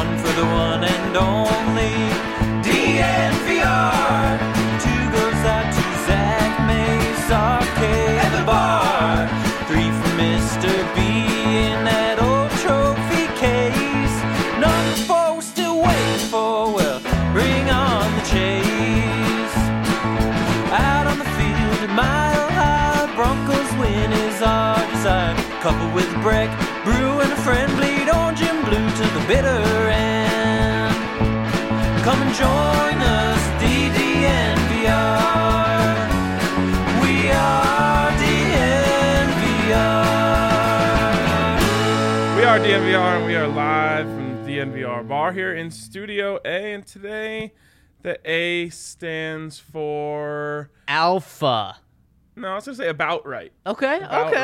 one for the one and only DNVR. Two goes out to Zach Mace, RK at the bar. Three for Mr. B in that old trophy case. Number four we're still waiting for, well, bring on the chase. Out on the field at Mile High, Broncos win is our desire. Coupled with a break, brew and a friend, bleed orange and blue to the bitter end. Come and join us, DDNVR. We are DNVR. We are DNVR, and we are live from the DNVR bar here in Studio A. And today, the A stands for Alpha. No, I was gonna say about right. Okay.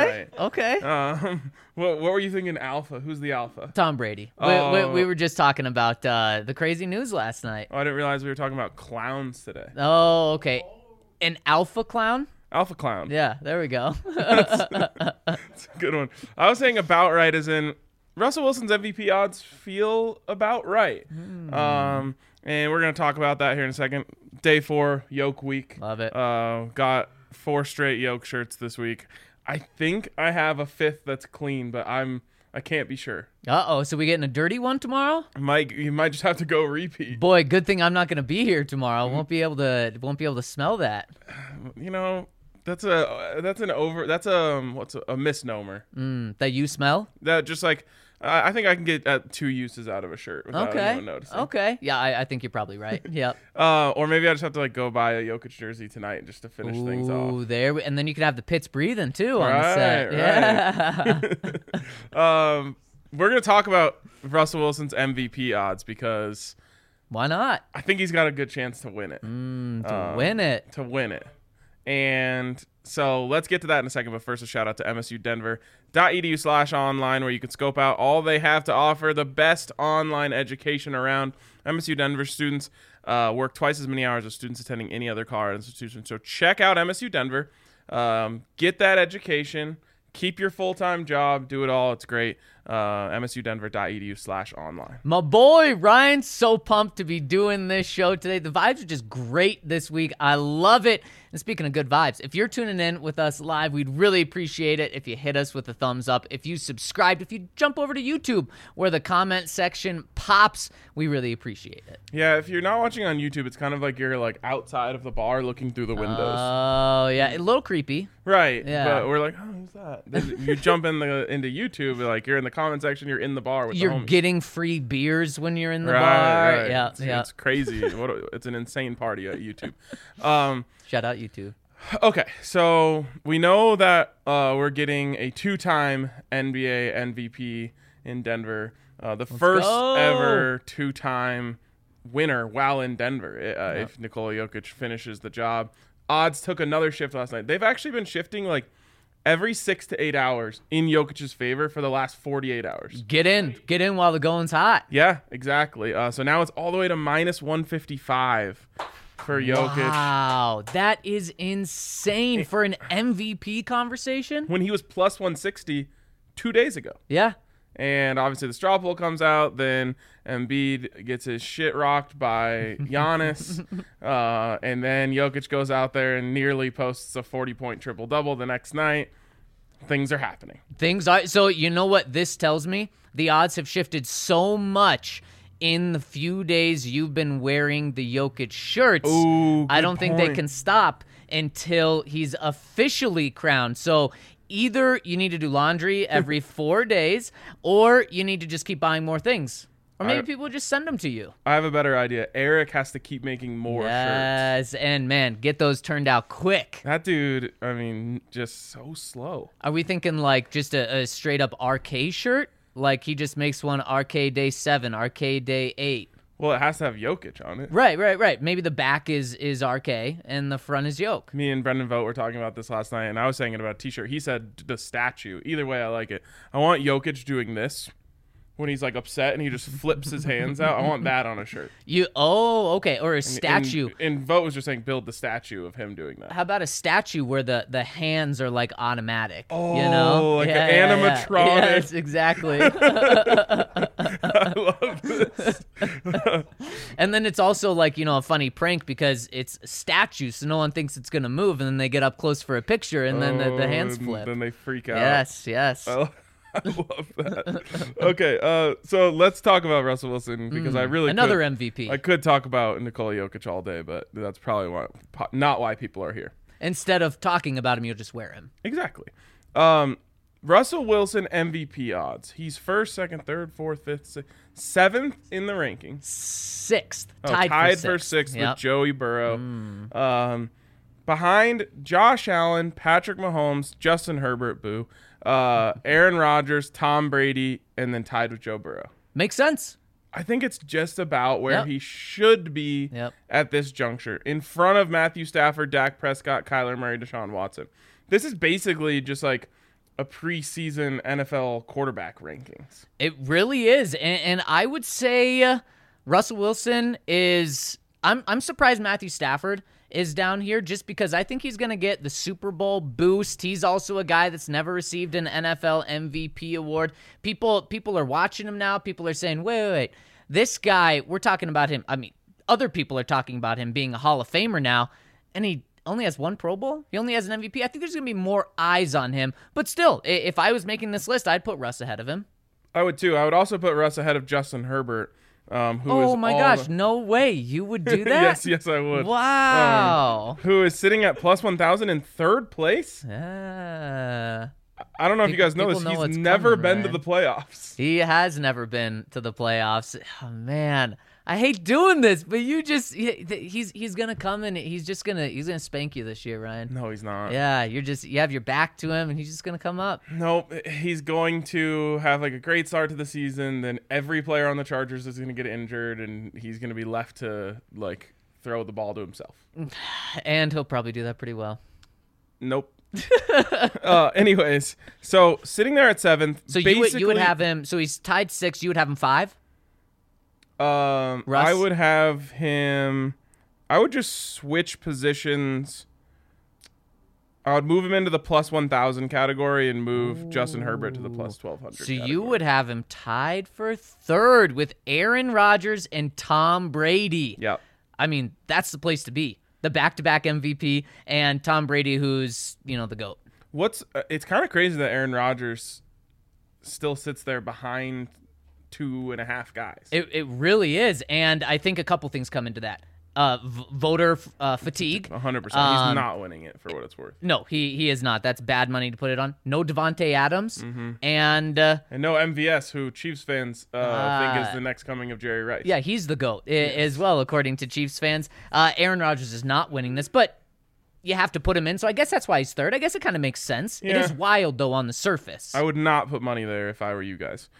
What were you thinking? Alpha? Who's the alpha? Tom Brady. Oh. We were just talking about the crazy news last night. Oh, I didn't realize we were talking about clowns today. Oh, okay. An alpha clown? Alpha clown. Yeah, there we go. That's a good one. I was saying about right as in Russell Wilson's MVP odds feel about right. And we're gonna talk about that here in a second. Day 4, Yoke Week. Love it. Got 4 straight Yoke shirts this week. I think I have a 5th that's clean, but I can't be sure. Uh-oh, so we getting a dirty one tomorrow? You might just have to go repeat. Boy, good thing I'm not going to be here tomorrow. Won't be able to smell that. You know, that's a misnomer. That you smell? That just like I think I can get 2 uses out of a shirt without anyone noticing. Okay. Yeah, I think you're probably right. Yep. Or maybe I just have to go buy a Jokic jersey tonight just to finish things off. Ooh, and then you can have the pits breathing too on the set. Right. Yeah. We're gonna talk about Russell Wilson's MVP odds because why not? I think he's got a good chance to win it. To win it. And so let's get to that in a second. But first, a shout out to msudenver.edu/online, where you can scope out all they have to offer, the best online education around. MSU Denver students work twice as many hours as students attending any other Colorado institution. So check out MSU Denver. Get that education. Keep your full-time job. Do it all. It's great. msudenver.edu/online. My boy Ryan's so pumped to be doing this show today. The vibes are just great this week. I love it. And speaking of good vibes, if you're tuning in with us live, we'd really appreciate it if you hit us with a thumbs up. If you subscribed, if you jump over to YouTube where the comment section pops, we really appreciate it. Yeah, if you're not watching on YouTube, it's kind of like you're like outside of the bar looking through the windows. Oh, yeah. A little creepy. Right. Yeah. But we're like, oh, who's that? Then you jump into YouTube, like you're in the comment section, you're in the bar with the You're homies. getting free beers when you're in the bar. Right. Yeah, It's crazy. It's an insane party at YouTube. Shout out YouTube. Okay, so we know that we're getting a 2-time NBA MVP in Denver. The first ever 2-time winner while in Denver, if Nikola Jokic finishes the job. Odds took another shift last night. They've actually been shifting like every 6 to 8 hours in Jokic's favor for the last 48 hours. Get in while the going's hot. Yeah, exactly. So now it's all the way to minus 155 for Jokic. Wow, that is insane for an MVP conversation. When he was plus 160 2 days ago. Yeah. And obviously the straw poll comes out, then Embiid gets his shit rocked by Giannis, and then Jokic goes out there and nearly posts a 40-point triple-double the next night. Things are happening. So you know what this tells me? The odds have shifted so much in the few days you've been wearing the Jokic shirts. Ooh, I don't think they can stop until he's officially crowned. So either you need to do laundry every 4 days, or you need to just keep buying more things. Or maybe people just send them to you. I have a better idea. Eric has to keep making more shirts. Yes, and man, get those turned out quick. That dude, I mean, just so slow. Are we thinking like just a straight-up RK shirt? Like he just makes one RK Day 7, RK Day 8. Well, it has to have Jokic on it. Right. Maybe the back is RK and the front is Yoke. Me and Brendan Vogt were talking about this last night, and I was saying it about a T-shirt. He said the statue. Either way, I like it. I want Jokic doing this when he's like upset and he just flips his hands out. I want that on a shirt. Okay, or a statue. And Vogt was just saying build the statue of him doing that. How about a statue where the hands are like automatic? Oh, you know? like an animatronic. Yes, exactly. I love this. And then it's also like, a funny prank because it's statues, so no one thinks it's going to move, and then they get up close for a picture, and then the hands flip. Then they freak out. Yes. I love that. Okay, so let's talk about Russell Wilson because I really Another could. MVP. I could talk about Nikola Jokic all day, but that's probably not why people are here. Instead of talking about him, you'll just wear him. Exactly. Russell Wilson MVP odds. He's first, second, third, fourth, fifth, sixth, seventh in the rankings. Sixth. Tied for sixth with Joey Burrow. Behind Josh Allen, Patrick Mahomes, Justin Herbert, Aaron Rodgers, Tom Brady, and then tied with Joe Burrow. Makes sense. I think it's just about where he should be at this juncture. In front of Matthew Stafford, Dak Prescott, Kyler Murray, Deshaun Watson. This is basically just like a preseason NFL quarterback rankings. It really is. And I would say Russell Wilson is... I'm surprised Matthew Stafford is down here just because I think he's going to get the Super Bowl boost. He's also a guy that's never received an NFL MVP award. People are watching him now. People are saying, wait. This guy, we're talking about him. I mean, other people are talking about him being a Hall of Famer now, and he only has one Pro Bowl. He only has an MVP. I think there's going to be more eyes on him. But still, if I was making this list, I'd put Russ ahead of him. I would too. I would also put Russ ahead of Justin Herbert. No way. You would do that? Yes, I would. Wow. Who is sitting at plus 1,000 in third place? Yeah. I don't know if you guys know this. He's never been to the playoffs. He has never been to the playoffs. Oh, man. I hate doing this, but he's gonna come and he's gonna spank you this year, Ryan. No, he's not. Yeah, you have your back to him and he's just gonna come up. Nope, he's going to have like a great start to the season. Then every player on the Chargers is gonna get injured, and he's gonna be left to like throw the ball to himself. And he'll probably do that pretty well. Nope. Anyways, so sitting there at seventh. So you would have him. So he's tied 6. You would have him 5. Russ? I would have him. I would just switch positions. I would move him into the plus 1,000 category and move Justin Herbert to the plus 1,200. So you would have him tied for 3rd with Aaron Rodgers and Tom Brady. Yep. I mean, that's the place to be. The back-to-back MVP and Tom Brady, who's the GOAT. It's kind of crazy that Aaron Rodgers still sits there behind 2.5 guys. It really is, and I think a couple things come into that. Voter fatigue. 100%. He's not winning it for what it's worth. No, he is not. That's bad money to put it on. No Devontae Adams, and no MVS, who Chiefs fans think is the next coming of Jerry Rice. Yeah, he's the GOAT as well, according to Chiefs fans. Aaron Rodgers is not winning this, but you have to put him in, so I guess that's why he's 3rd. I guess it kind of makes sense. Yeah. It is wild, though, on the surface. I would not put money there if I were you guys.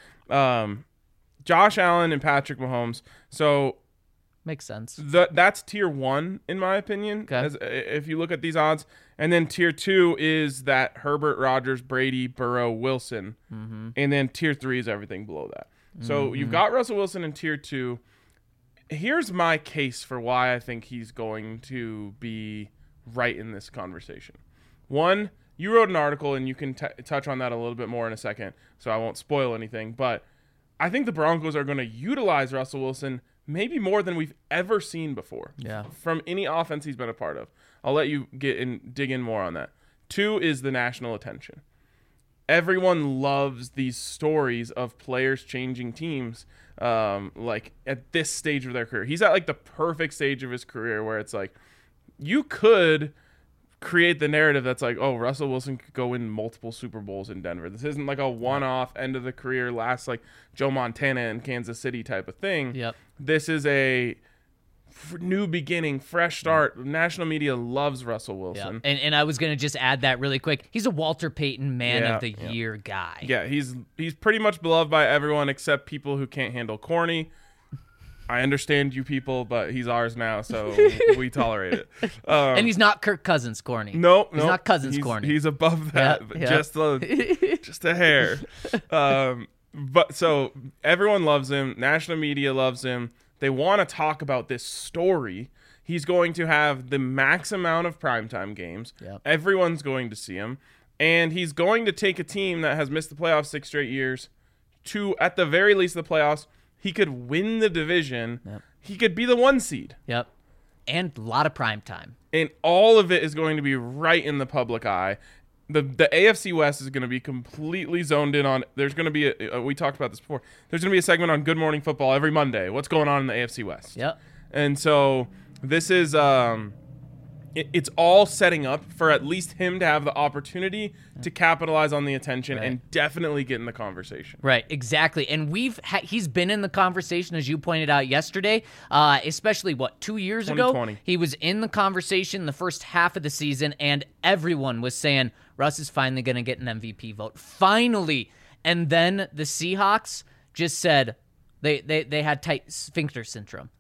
Josh Allen and Patrick Mahomes. So makes sense. That's tier 1 in my opinion. Okay. If you look at these odds, and then tier 2 is that Herbert, Rodgers, Brady, Burrow, Wilson, and then tier 3 is everything below that. So you've got Russell Wilson in tier 2. Here's my case for why I think he's going to be right in this conversation. 1, you wrote an article, and you can touch on that a little bit more in a second, so I won't spoil anything, but I think the Broncos are going to utilize Russell Wilson maybe more than we've ever seen before from any offense he's been a part of. I'll let you dig in more on that. 2 is the national attention. Everyone loves these stories of players changing teams like at this stage of their career. He's at like the perfect stage of his career where it's like you could create the narrative that's like, oh, Russell Wilson could go win multiple Super Bowls in Denver. This isn't like a one-off end of the career last like Joe Montana in Kansas City type of thing. Yep. This is a new beginning, fresh start. National media loves Russell Wilson. Yep. And I was going to just add that really quick. He's a Walter Payton Man of the Year guy. Yeah, he's pretty much beloved by everyone except people who can't handle corny. I understand you people, but he's ours now, so we tolerate it. And he's not Kirk Cousins corny. Nope. He's not Cousins corny. He's above that, just a hair. But so everyone loves him. National media loves him. They want to talk about this story. He's going to have the max amount of primetime games. Yep. Everyone's going to see him. And he's going to take a team that has missed the playoffs 6 straight years to, at the very least, the playoffs He could win the division. Yep. He could be the 1 seed. Yep. And a lot of prime time. And all of it is going to be right in the public eye. The AFC West is going to be completely zoned in on. There's going to be we talked about this before. There's going to be a segment on Good Morning Football every Monday. What's going on in the AFC West? Yep. And so this is it's all setting up for at least him to have the opportunity to capitalize on the attention and definitely get in the conversation. Right, exactly. And he's been in the conversation, as you pointed out yesterday, especially, 2 years ago? 2020. He was in the conversation the first half of the season, and everyone was saying, Russ is finally going to get an MVP vote. Finally. And then the Seahawks just said, They had tight sphincter syndrome.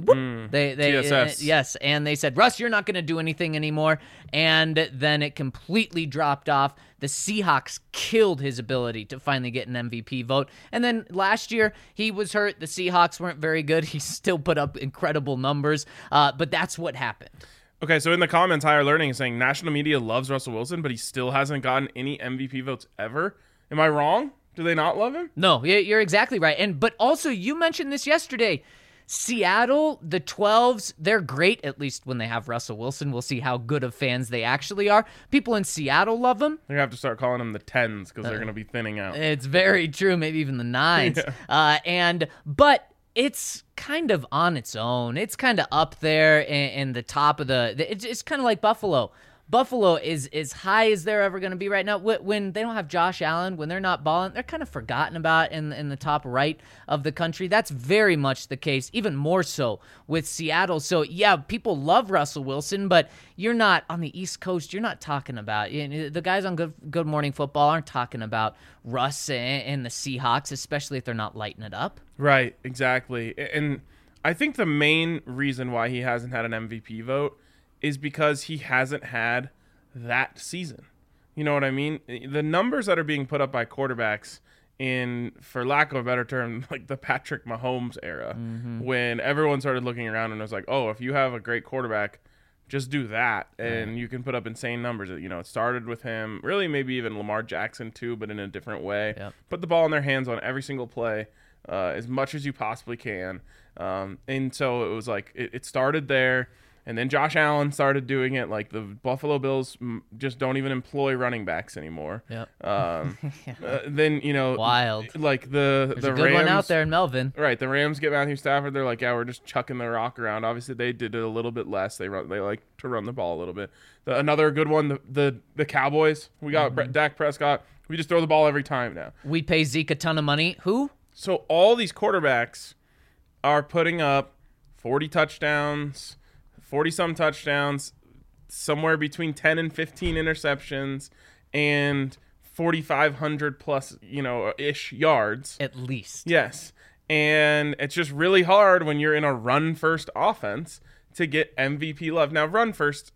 TSS. Yes, and they said, Russ, you're not going to do anything anymore. And then it completely dropped off. The Seahawks killed his ability to finally get an MVP vote. And then last year, he was hurt. The Seahawks weren't very good. He still put up incredible numbers, but that's what happened. Okay, so in the comments, Higher Learning is saying national media loves Russell Wilson, but he still hasn't gotten any MVP votes ever. Am I wrong? Do they not love him? No, you're exactly right. But also, you mentioned this yesterday. Seattle, the 12s, they're great, at least when they have Russell Wilson. We'll see how good of fans they actually are. People in Seattle love him. They're going to have to start calling them the 10s because they're going to be thinning out. It's very true, maybe even the 9s. Yeah. But it's kind of on its own. It's kind of up there in the top of it's kind of like Buffalo. Buffalo is as high as they're ever going to be right now. When they don't have Josh Allen, when they're not balling, they're kind of forgotten about in the top right of the country. That's very much the case, even more so with Seattle. So, yeah, people love Russell Wilson, but you're not on the East Coast. You're not talking about the guys on Good Morning Football aren't talking about Russ and the Seahawks, especially if they're not lighting it up. Right, exactly. And I think the main reason why he hasn't had an MVP vote is because he hasn't had that season. You know what I mean? The numbers that are being put up by quarterbacks in, for lack of a better term, like the Patrick Mahomes era, when everyone started looking around and was like, oh, if you have a great quarterback, just do that, and you can put up insane numbers. You know, it started with him, really maybe even Lamar Jackson too, but in a different way. Yep. Put the ball in their hands on every single play, as much as you possibly can. And so it was like, it started there. And then Josh Allen started doing it. Like the Buffalo Bills just don't even employ running backs anymore. Yep. Then, you know, Wild. Like There's the a good Rams, one out there in Melvin. Right. The Rams get Matthew Stafford. They're like, yeah, we're just chucking the rock around. Obviously, they did it a little bit less. They like to run the ball a little bit. Another good one, the Cowboys. We got Dak Prescott. We just throw the ball every time now. We pay Zeke a ton of money. Who? So all these quarterbacks are putting up 40 touchdowns, 40-some touchdowns, somewhere between 10 and 15 interceptions, and 4,500 plus, ish yards. At least. Yes. And it's just really hard when you're in a run-first offense to get MVP love. Now, run first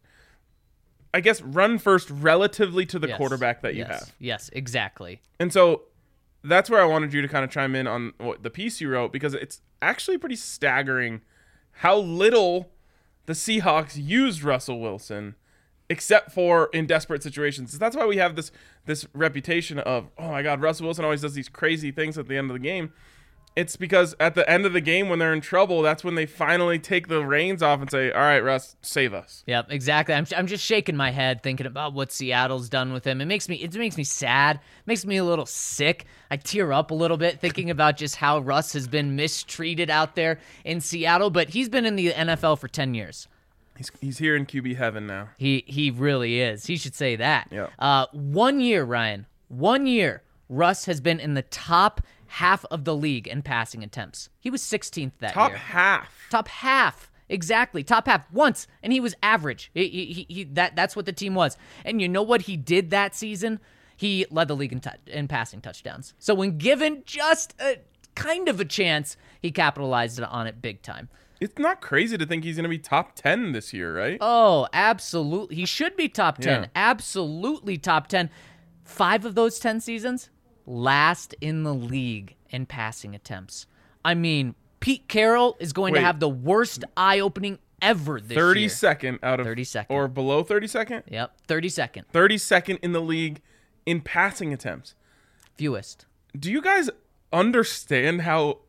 relatively to the quarterback that you have. Yes, exactly. And so that's where I wanted you to kind of chime in on what the piece you wrote, because it's actually pretty staggering how little the Seahawks used Russell Wilson, except for in desperate situations. That's why we have this reputation of, oh my God, Russell Wilson always does these crazy things at the end of the game. It's because at the end of the game, when they're in trouble, that's when they finally take the reins off and say, all right, Russ, save us. Yep, exactly. I'm just shaking my head thinking about what Seattle's done with him. It makes me sad. It makes me a little sick. I tear up a little bit thinking about just how Russ has been mistreated out there in Seattle, but he's been in the NFL for 10 years. He's here in QB heaven now. He really is. He should say that. Yeah. 1 year, Ryan. 1 year, Russ has been in the top half of the league in passing attempts. He was 16th that year. Top half. Exactly. Top half once, and he was average. That's what the team was. And you know what he did that season? He led the league in passing touchdowns. So when given just a kind of a chance, he capitalized on it big time. It's not crazy to think he's going to be top 10 this year, right? Oh, absolutely. He should be top 10. Yeah. Absolutely top 10. 5 of those 10 seasons, last in the league in passing attempts. I mean, Pete Carroll is going to have the worst eye-opening ever this year. 32nd out of 32nd. Or below 32nd? Yep, 32nd. 32nd in the league in passing attempts. Fewest. Do you guys understand how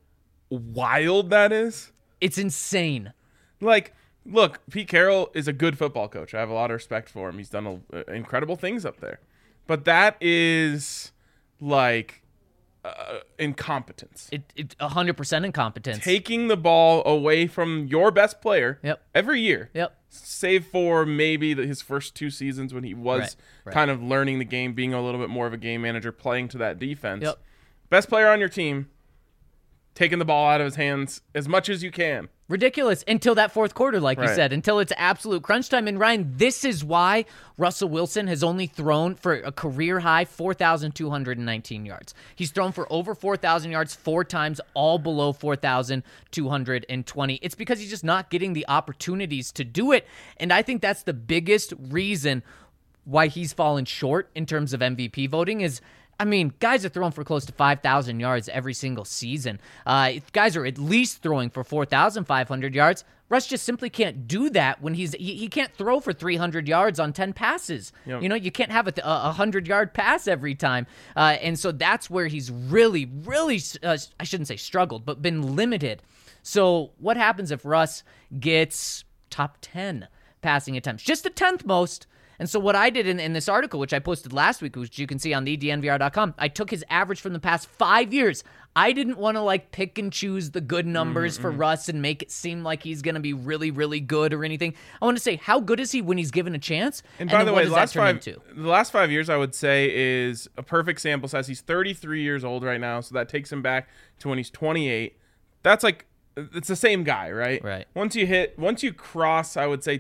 wild that is? It's insane. Like, look, Pete Carroll is a good football coach. I have a lot of respect for him. He's done incredible things up there. But that is like incompetence. It 100% incompetence. Taking the ball away from your best player every year. Yep. Save for maybe his first 2 seasons when he was Right. kind of learning the game, being a little bit more of a game manager, playing to that defense. Yep. Best player on your team, taking the ball out of his hands as much as you can. Ridiculous until that fourth quarter, like you Right. said, until it's absolute crunch time. And Ryan, this is why Russell Wilson has only thrown for a career high 4,219 yards. He's thrown for over 4,000 yards 4 times, all below 4,220. It's because he's just not getting the opportunities to do it. And I think that's the biggest reason why he's fallen short in terms of MVP voting is, I mean, guys are throwing for close to 5,000 yards every single season. Guys are at least throwing for 4,500 yards. Russ just simply can't do that when he can't throw for 300 yards on 10 passes. Yep. You know, you can't have a 100-yard pass every time. And so that's where he's really, I shouldn't say struggled, but been limited. So what happens if Russ gets top 10 passing attempts? Just the 10th most. And so what I did in this article, which I posted last week, which you can see on thednvr.com, I took his average from the past 5 years. I didn't want to pick and choose the good numbers for Russ and make it seem like he's going to be really, really good or anything. I want to say, how good is he when he's given a chance? And by the way, the last 5 years, I would say, is a perfect sample size. He's 33 years old right now, so that takes him back to when he's 28. That's it's the same guy, right? Right. Once you cross, I would say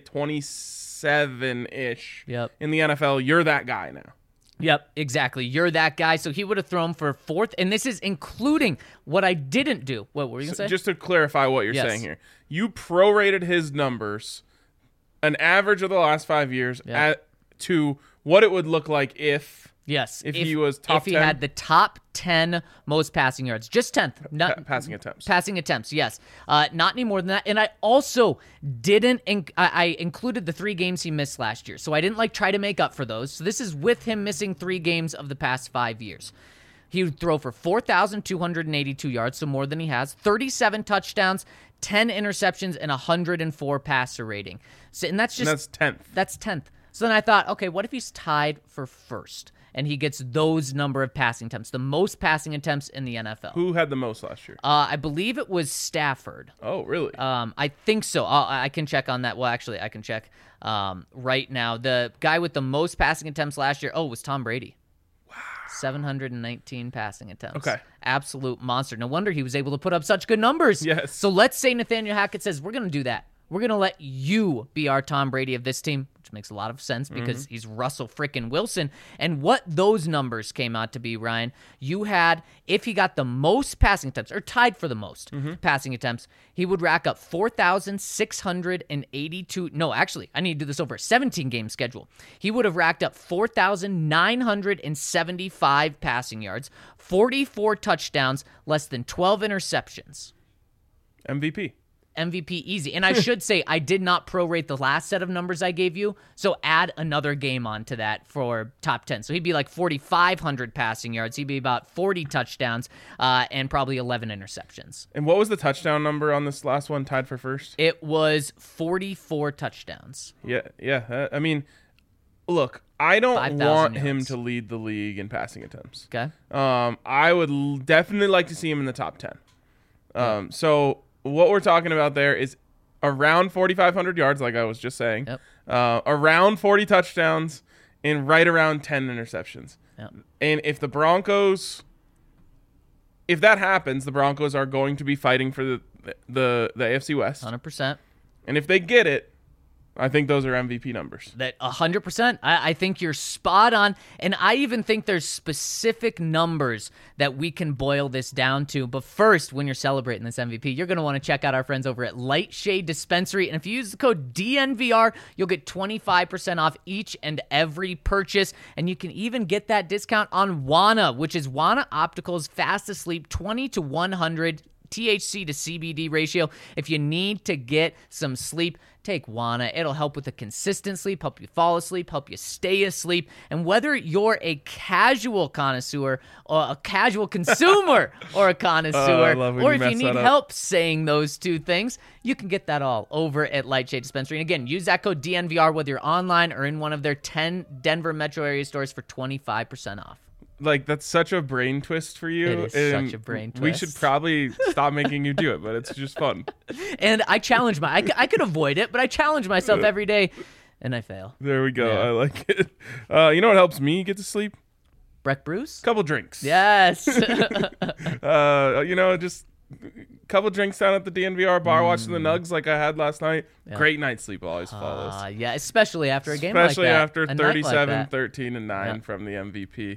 27-ish in the NFL, you're that guy now. Yep, exactly. You're that guy. So he would have thrown for 4th, and this is including what I didn't do. What were you going to say? Just to clarify what you're saying here. You prorated his numbers, an average of the last 5 years, to what it would look like if he was top 10. If he had the top 10 most passing yards. Just 10th. Not passing attempts. Passing attempts, yes. Not any more than that. And I also didn't I included the 3 games he missed last year. So I didn't try to make up for those. So this is with him missing 3 games of the past 5 years. He would throw for 4,282 yards, so more than he has, 37 touchdowns, 10 interceptions, and 104 passer rating. So, and that's 10th. That's 10th. So then I thought, okay, what if he's tied for first? And he gets those number of passing attempts, the most passing attempts in the NFL. Who had the most last year? I believe it was Stafford. Oh, really? I think so. I can check on that. Well, actually, I can check right now. The guy with the most passing attempts last year, was Tom Brady. Wow. 719 passing attempts. Okay. Absolute monster. No wonder he was able to put up such good numbers. Yes. So let's say Nathaniel Hackett says, we're going to do that. We're going to let you be our Tom Brady of this team, which makes a lot of sense because he's Russell frickin' Wilson. And what those numbers came out to be, Ryan, you had, if he got the most passing attempts, or tied for the most passing attempts, he would rack up 4,682. No, actually, I need to do this over a 17-game schedule. He would have racked up 4,975 passing yards, 44 touchdowns, less than 12 interceptions. MVP easy. And I should say, I did not prorate the last set of numbers I gave you, so add another game onto that for top 10. So he'd be 4,500 passing yards. He'd be about 40 touchdowns and probably 11 interceptions. And what was the touchdown number on this last one tied for first? It was 44 touchdowns. Yeah. I mean, look, I don't 5,000 want yards. him to lead the league in passing attempts. Okay. I would definitely like to see him in the top 10. So what we're talking about there is around 4,500 yards, like I was just saying, around 40 touchdowns, and right around 10 interceptions. Yep. And if that happens, the Broncos are going to be fighting for the AFC West. 100%. And if they get it, I think those are MVP numbers. That 100%. I think you're spot on. And I even think there's specific numbers that we can boil this down to. But first, when you're celebrating this MVP, you're going to want to check out our friends over at Lightshade Dispensary. And if you use the code DNVR, you'll get 25% off each and every purchase. And you can even get that discount on Wana, which is Wana Optical's fast asleep 20 to 100 THC to CBD ratio. If you need to get some sleep, take Wana. It'll help with the consistent sleep, help you fall asleep, help you stay asleep. And whether you're a casual connoisseur or a casual consumer or a connoisseur, or if you need help saying those two things, you can get that all over at Lightshade Dispensary. And again, use that code DNVR whether you're online or in one of their 10 Denver metro area stores for 25% off. Like, that's such a brain twist for you. It is such a brain twist. We should probably stop making you do it, but it's just fun. And I challenge I could avoid it, but I challenge myself every day, and I fail. There we go. Yeah. I like it. You know what helps me get to sleep? Breck Bruce? Couple drinks. Yes. Just a couple drinks down at the DNVR bar, watching the Nugs like I had last night. Yeah. Great night's sleep always follows. Yeah, especially after a game like that. Especially after A night 37, like that. 13, and 9 Yeah. from the MVP.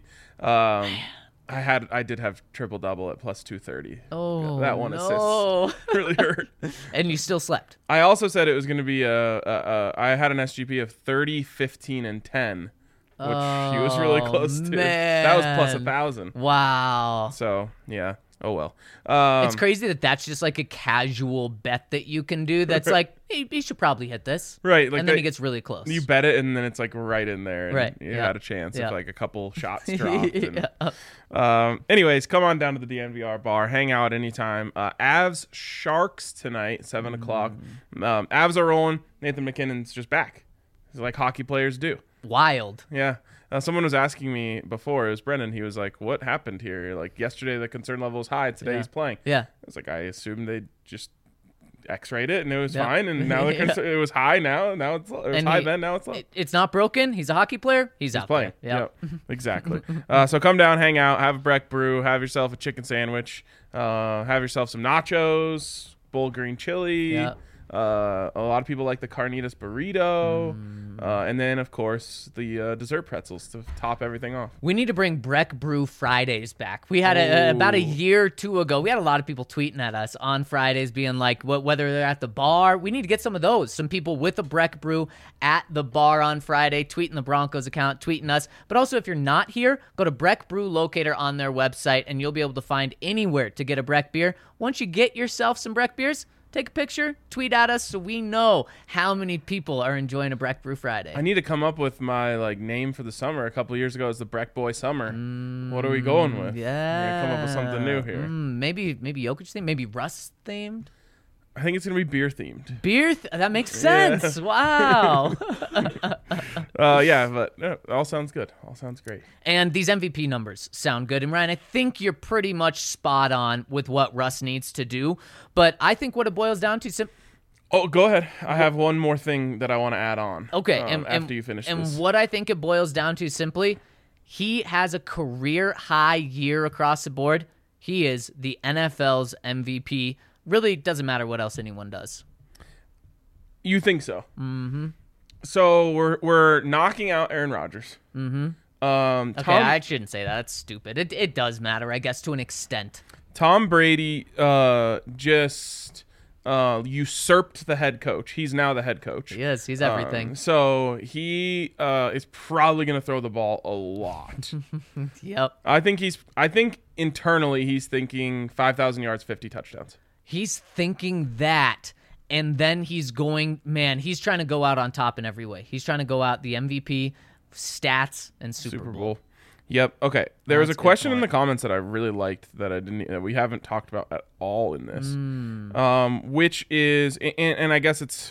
I did have triple double at plus 230. Oh, that one no. assist really hurt. And you still slept. I also said it was going to be I had an SGP of 30, 15, and 10, which he was really close to. That was plus 1,000. Wow. So yeah. Oh well. It's crazy that's just like a casual bet that you can do. That's like, hey, he should probably hit this. Right. Like and then he gets really close. You bet it, and then it's like right in there. And Right. You Yeah. had a chance Yeah. if like a couple shots dropped. Yeah. Anyways, come on down to the DNVR bar. Hang out anytime. Avs Sharks tonight, 7 o'clock. Avs are rolling. Nathan McKinnon's just back. It's like hockey players do. Wild. Yeah. Someone was asking me before, it was Brennan, he was like, what happened here? Like, yesterday the concern level was high, today he's playing. Yeah. I was like, I assumed they just x-rayed it and it was Yeah. fine, and now it was high now it's high then, now it's low. It's not broken. He's a hockey player. He's out Playing. there. Yep. Exactly. So come down, hang out, have a Breck Brew, have yourself a chicken sandwich, have yourself some nachos, bowl green chili. Yeah. A lot of people like the carnitas burrito, and then of course the dessert pretzels to top everything off. We need to bring Breck Brew Fridays back. We had about a year or two ago. We had a lot of people tweeting at us on Fridays, being like, whether they're at the bar. We need to get some of those. Some people with a Breck Brew at the bar on Friday, tweeting the Broncos account, tweeting us. But also, if you're not here, go to Breck Brew Locator on their website, and you'll be able to find anywhere to get a Breck beer. Once you get yourself some Breck beers, take a picture, tweet at us so we know how many people are enjoying a Breck Brew Friday. I need to come up with my name for the summer. A couple of years ago, it was the Breck Boy Summer. What are we going with? Yeah. We're gonna come up with something new here. Maybe Jokic themed, maybe Russ themed. I think it's gonna be beer themed. That makes sense. Wow. But all sounds good. All sounds great. And these MVP numbers sound good. And Ryan, I think you're pretty much spot on with what Russ needs to do. But I think what it boils down to Oh, go ahead. I have one more thing that I want to add on. Okay, after you finish this. And what I think it boils down to simply, he has a career high year across the board. He is the NFL's MVP. Really doesn't matter what else anyone does. You think so? Mm-hmm. So we're knocking out Aaron Rodgers. Mm-hmm. I shouldn't say that. That's stupid. It does matter, I guess, to an extent. Tom Brady just usurped the head coach. He's now the head coach. He is. He's everything. So he is probably going to throw the ball a lot. Yep. I think internally he's thinking 5,000 yards, 50 touchdowns. He's thinking that, and then he's trying to go out on top in every way. He's trying to go out the MVP, stats, and Super Bowl. Yep. Okay. There was a That's a good question in point. the comments that I really liked that we haven't talked about at all in this, which is, and I guess it's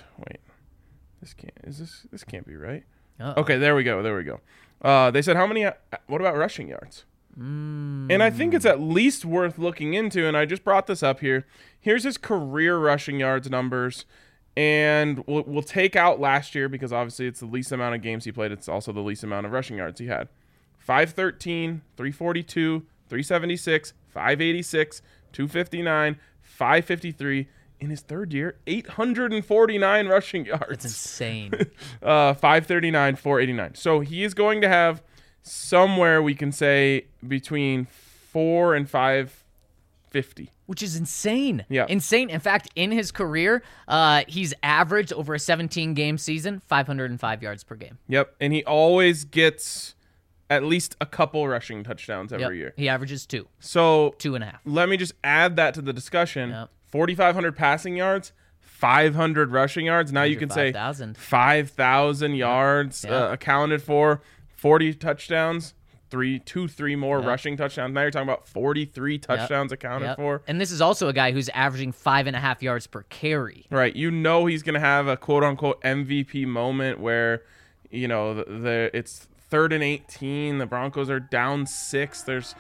this can't be right. Uh-oh. Okay. There we go. They said what about rushing yards? And I think it's at least worth looking into. And I just brought this up here. Here's his career rushing yards numbers. And we'll take out last year because obviously it's the least amount of games he played. It's also the least amount of rushing yards he had. 513, 342, 376, 586, 259, 553. In his third year, 849 rushing yards. That's insane. 539, 489. So he is going to have somewhere we can say between 4 and 550. Which is insane. Yeah. Insane. In fact, in his career, he's averaged over a 17-game season, 505 yards per game. Yep. And he always gets at least a couple rushing touchdowns every year. He averages 2. So 2.5. let me just add that to the discussion. Yep. 4,500 passing yards, 500 rushing yards. Now you can say 5,000 yards accounted for, 40 touchdowns, 3 more rushing touchdowns. Now you're talking about 43 touchdowns accounted for. And this is also a guy who's averaging 5.5 yards per carry. Right. You know he's going to have a quote-unquote MVP moment where, you know, it's 3rd and 18. The Broncos are down 6. There's,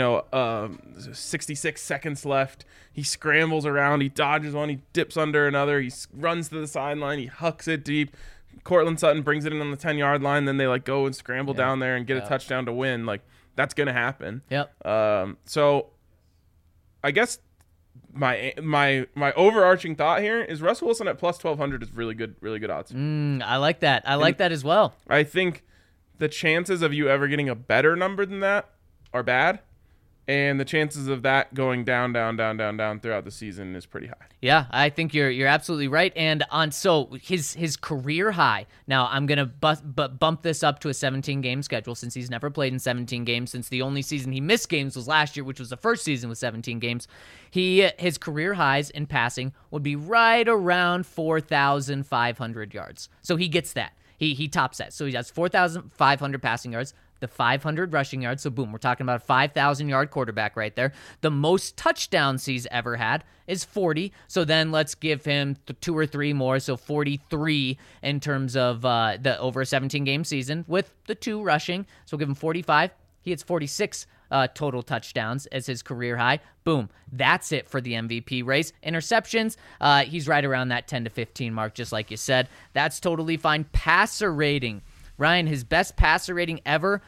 66 seconds left. He scrambles around. He dodges one. He dips under another. He runs to the sideline. He hucks it deep. Cortland Sutton brings it in on the 10-yard line. Then they go and scramble down there and get a touchdown to win. That's going to happen. Yep. So I guess my overarching thought here is Russell Wilson at plus 1,200 is really good odds. I like that. I like that as well. I think the chances of you ever getting a better number than that are bad, and the chances of that going down throughout the season is pretty high. Yeah, I think you're absolutely right. And so his career high. Now I'm gonna bump this up to a 17-game schedule since he's never played in 17 games. Since the only season he missed games was last year, which was the first season with 17 games. His career highs in passing would be right around 4,500 yards. So he gets that. He tops that. So he has 4,500 passing yards, the 500 rushing yards. So boom, we're talking about a 5,000-yard quarterback right there. The most touchdowns he's ever had is 40. So then let's give him 2 or 3 more. So 43 in terms of the over a 17-game season with the 2 rushing. So we'll give him 45. He hits 46 total touchdowns as his career high. Boom. That's it for the MVP race. Interceptions, he's right around that 10 to 15 mark, just like you said. That's totally fine. Passer rating. Ryan, his best passer rating ever,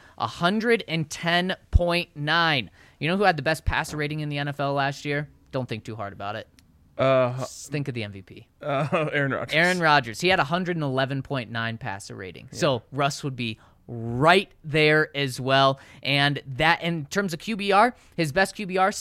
110.9. You know who had the best passer rating in the NFL last year? Don't think too hard about it. Just think of the MVP. Aaron Rodgers. Aaron Rodgers. He had 111.9 passer rating. Yeah. So Russ would be right there as well. And that, in terms of QBR, his best QBR,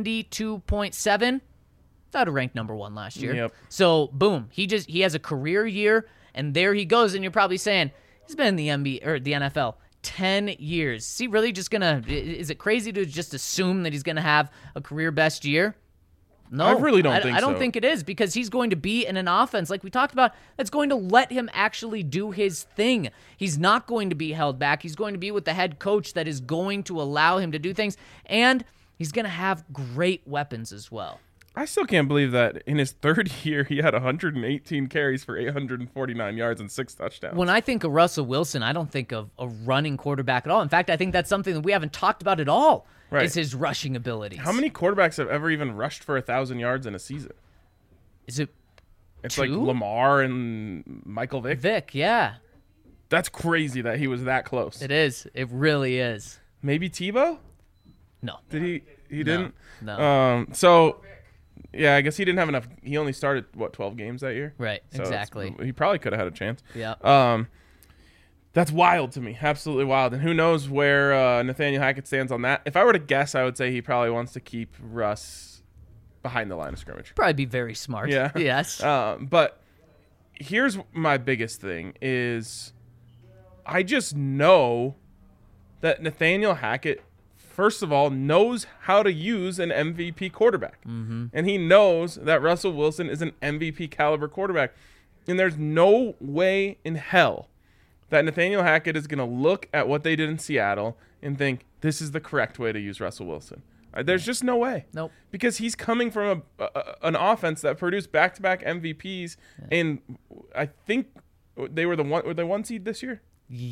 72.7. That would rank number 1 last year. Yep. So boom, he has a career year, and there he goes. And you're probably saying, he's been in the NBA or the NFL 10 years. Is he really just is it crazy to just assume that he's gonna have a career best year? No, I really don't think so. I don't think it is, because he's going to be in an offense, like we talked about, that's going to let him actually do his thing. He's not going to be held back. He's going to be with the head coach that is going to allow him to do things, and he's going to have great weapons as well. I still can't believe that in his 3rd year, he had 118 carries for 849 yards and 6 touchdowns. When I think of Russell Wilson, I don't think of a running quarterback at all. In fact, I think that's something that we haven't talked about at all, is his rushing abilities. How many quarterbacks have ever even rushed for 1,000 yards in a season? Is it It's 2? like Lamar and Michael Vick. Vick, yeah. That's crazy that he was that close. It is. It really is. Maybe Tebow? No. Did he? He didn't? No. So... yeah, I guess he didn't have enough. He only started, 12 games that year? Right, So exactly. he probably could have had a chance. Yeah. That's wild to me. Absolutely wild. And who knows where Nathaniel Hackett stands on that. If I were to guess, I would say he probably wants to keep Russ behind the line of scrimmage. Probably be very smart. Yeah. Yes. But here's my biggest thing is I just know that Nathaniel Hackett, first of all, knows how to use an MVP quarterback. Mm-hmm. And he knows that Russell Wilson is an MVP caliber quarterback. And there's no way in hell that Nathaniel Hackett is going to look at what they did in Seattle and think, this is the correct way to use Russell Wilson. There's just no way. Nope. Because he's coming from an offense that produced back-to-back MVPs. Yeah. And I think they were the 1 seed this year?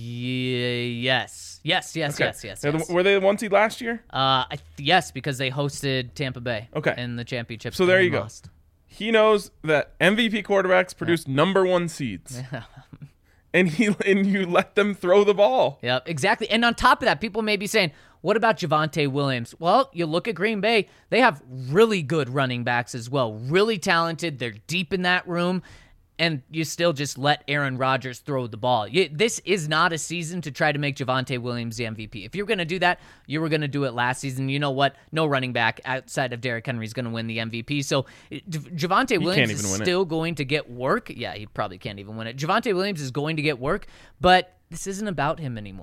Yes. Yes. Were they the 1 seed last year? Yes, because they hosted Tampa Bay in the championship. So there you go. He knows that MVP quarterbacks produce number 1 seeds. Yeah. And you let them throw the ball. Yep, exactly. And on top of that, people may be saying, what about Javonte Williams? Well, you look at Green Bay, they have really good running backs as well. Really talented. They're deep in that room. And you still just let Aaron Rodgers throw the ball. This is not a season to try to make Javonte Williams the MVP. If you're going to do that, you were going to do it last season. You know what? No running back outside of Derrick Henry is going to win the MVP. So Javonte Williams is still going to get work. Yeah, he probably can't even win it. Javonte Williams is going to get work, but this isn't about him anymore.